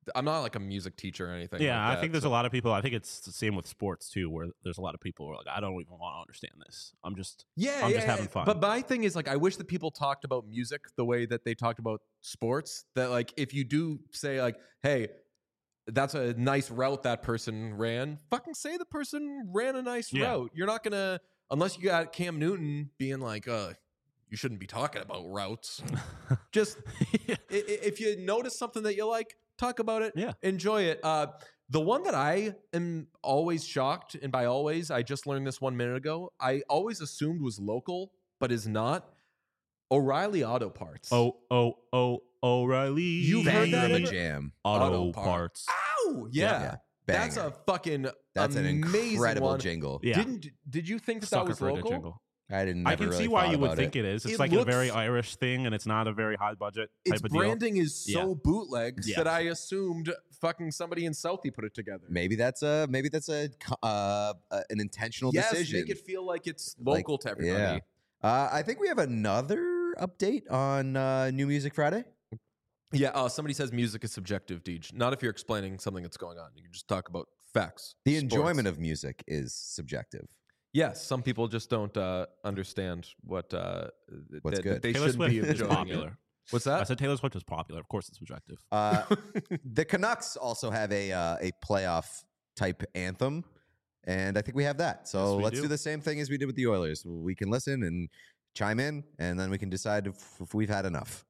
I'm not like a music teacher or anything. Yeah, like I that, think there's so- a lot of people. I think it's the same with sports too, where there's a lot of people who are like, I don't even want to understand this. I'm just, Yeah, I'm yeah, just having yeah. fun. But my thing is like, I wish that people talked about music the way that they talked about sports. That like, if you do say like, hey, that's a nice route that person ran, fucking say the person ran a nice Yeah. route. You're not gonna, unless you got Cam Newton being like, uh, you shouldn't be talking about routes. Just Yeah. i- i- if you notice something that you like, talk about it. Yeah. Enjoy it. Uh, the one that I am always shocked, and by always, I just learned this one minute ago. I always assumed was local, but is not. O'Reilly Auto Parts. Oh, oh, oh, O'Reilly. You've heard Banger that of a ever? jam. Auto, Auto parts. Ow! Yeah. Yeah, That's banger. a fucking That's an amazing incredible one. jingle. Yeah. Didn't did you think that that Sucker was for a local? jingle. I didn't. I never can really see why thought you would about think it is. It's It like a very looks- Irish thing, and it's not a very high budget type Its of deal. branding is so Yeah. bootlegs Yeah. that I assumed fucking somebody in Southie put it together. Maybe that's a maybe that's a co- uh, uh, an intentional yes, decision. make it feel like it's Like, local to everybody. yeah. Uh, I think we have another update on uh, New Music Friday. Yeah, uh, somebody says music is subjective, Deej. Not if you're explaining something that's going on. You can just talk about facts. The enjoyment of music is subjective. Yes, some people just don't uh, understand what uh, th- What's that, good. that they Taylor shouldn't Swift be is enjoying popular. it. What's I that? said Taylor Swift is popular. Of course, it's subjective. Uh, the Canucks also have a uh, a playoff type anthem, and I think we have that. So Yes, we let's do. do the same thing as we did with the Oilers. We can listen and chime in, and then we can decide if, if we've had enough.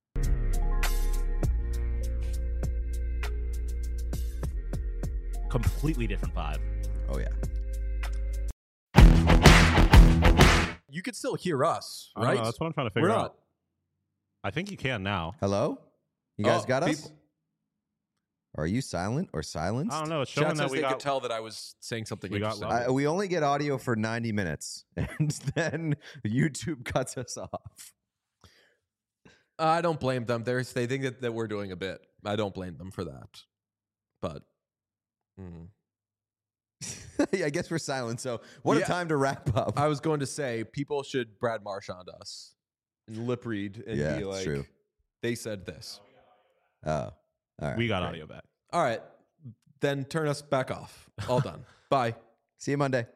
Completely different vibe. Oh yeah. You could still hear us, I don't right? know, that's what I'm trying to We're figure not. out. I think you can now. Hello, you guys Oh, got us? people- Are you silent or silenced? I don't know. It's Chat showing says that we they got. could tell that I was saying something we got interesting. loud. I, we only get audio for ninety minutes, and then YouTube cuts us off. I don't blame them. They're, they think that, that we're doing a bit. I don't blame them for that. But mm. I guess we're silent. So what Yeah. a time to wrap up. I was going to say people should Brad Marchand us and lip read and Yeah, be it's like, true. they said this. Oh, all right. we got great. audio back. All right, then turn us back off. All done. Bye. See you Monday.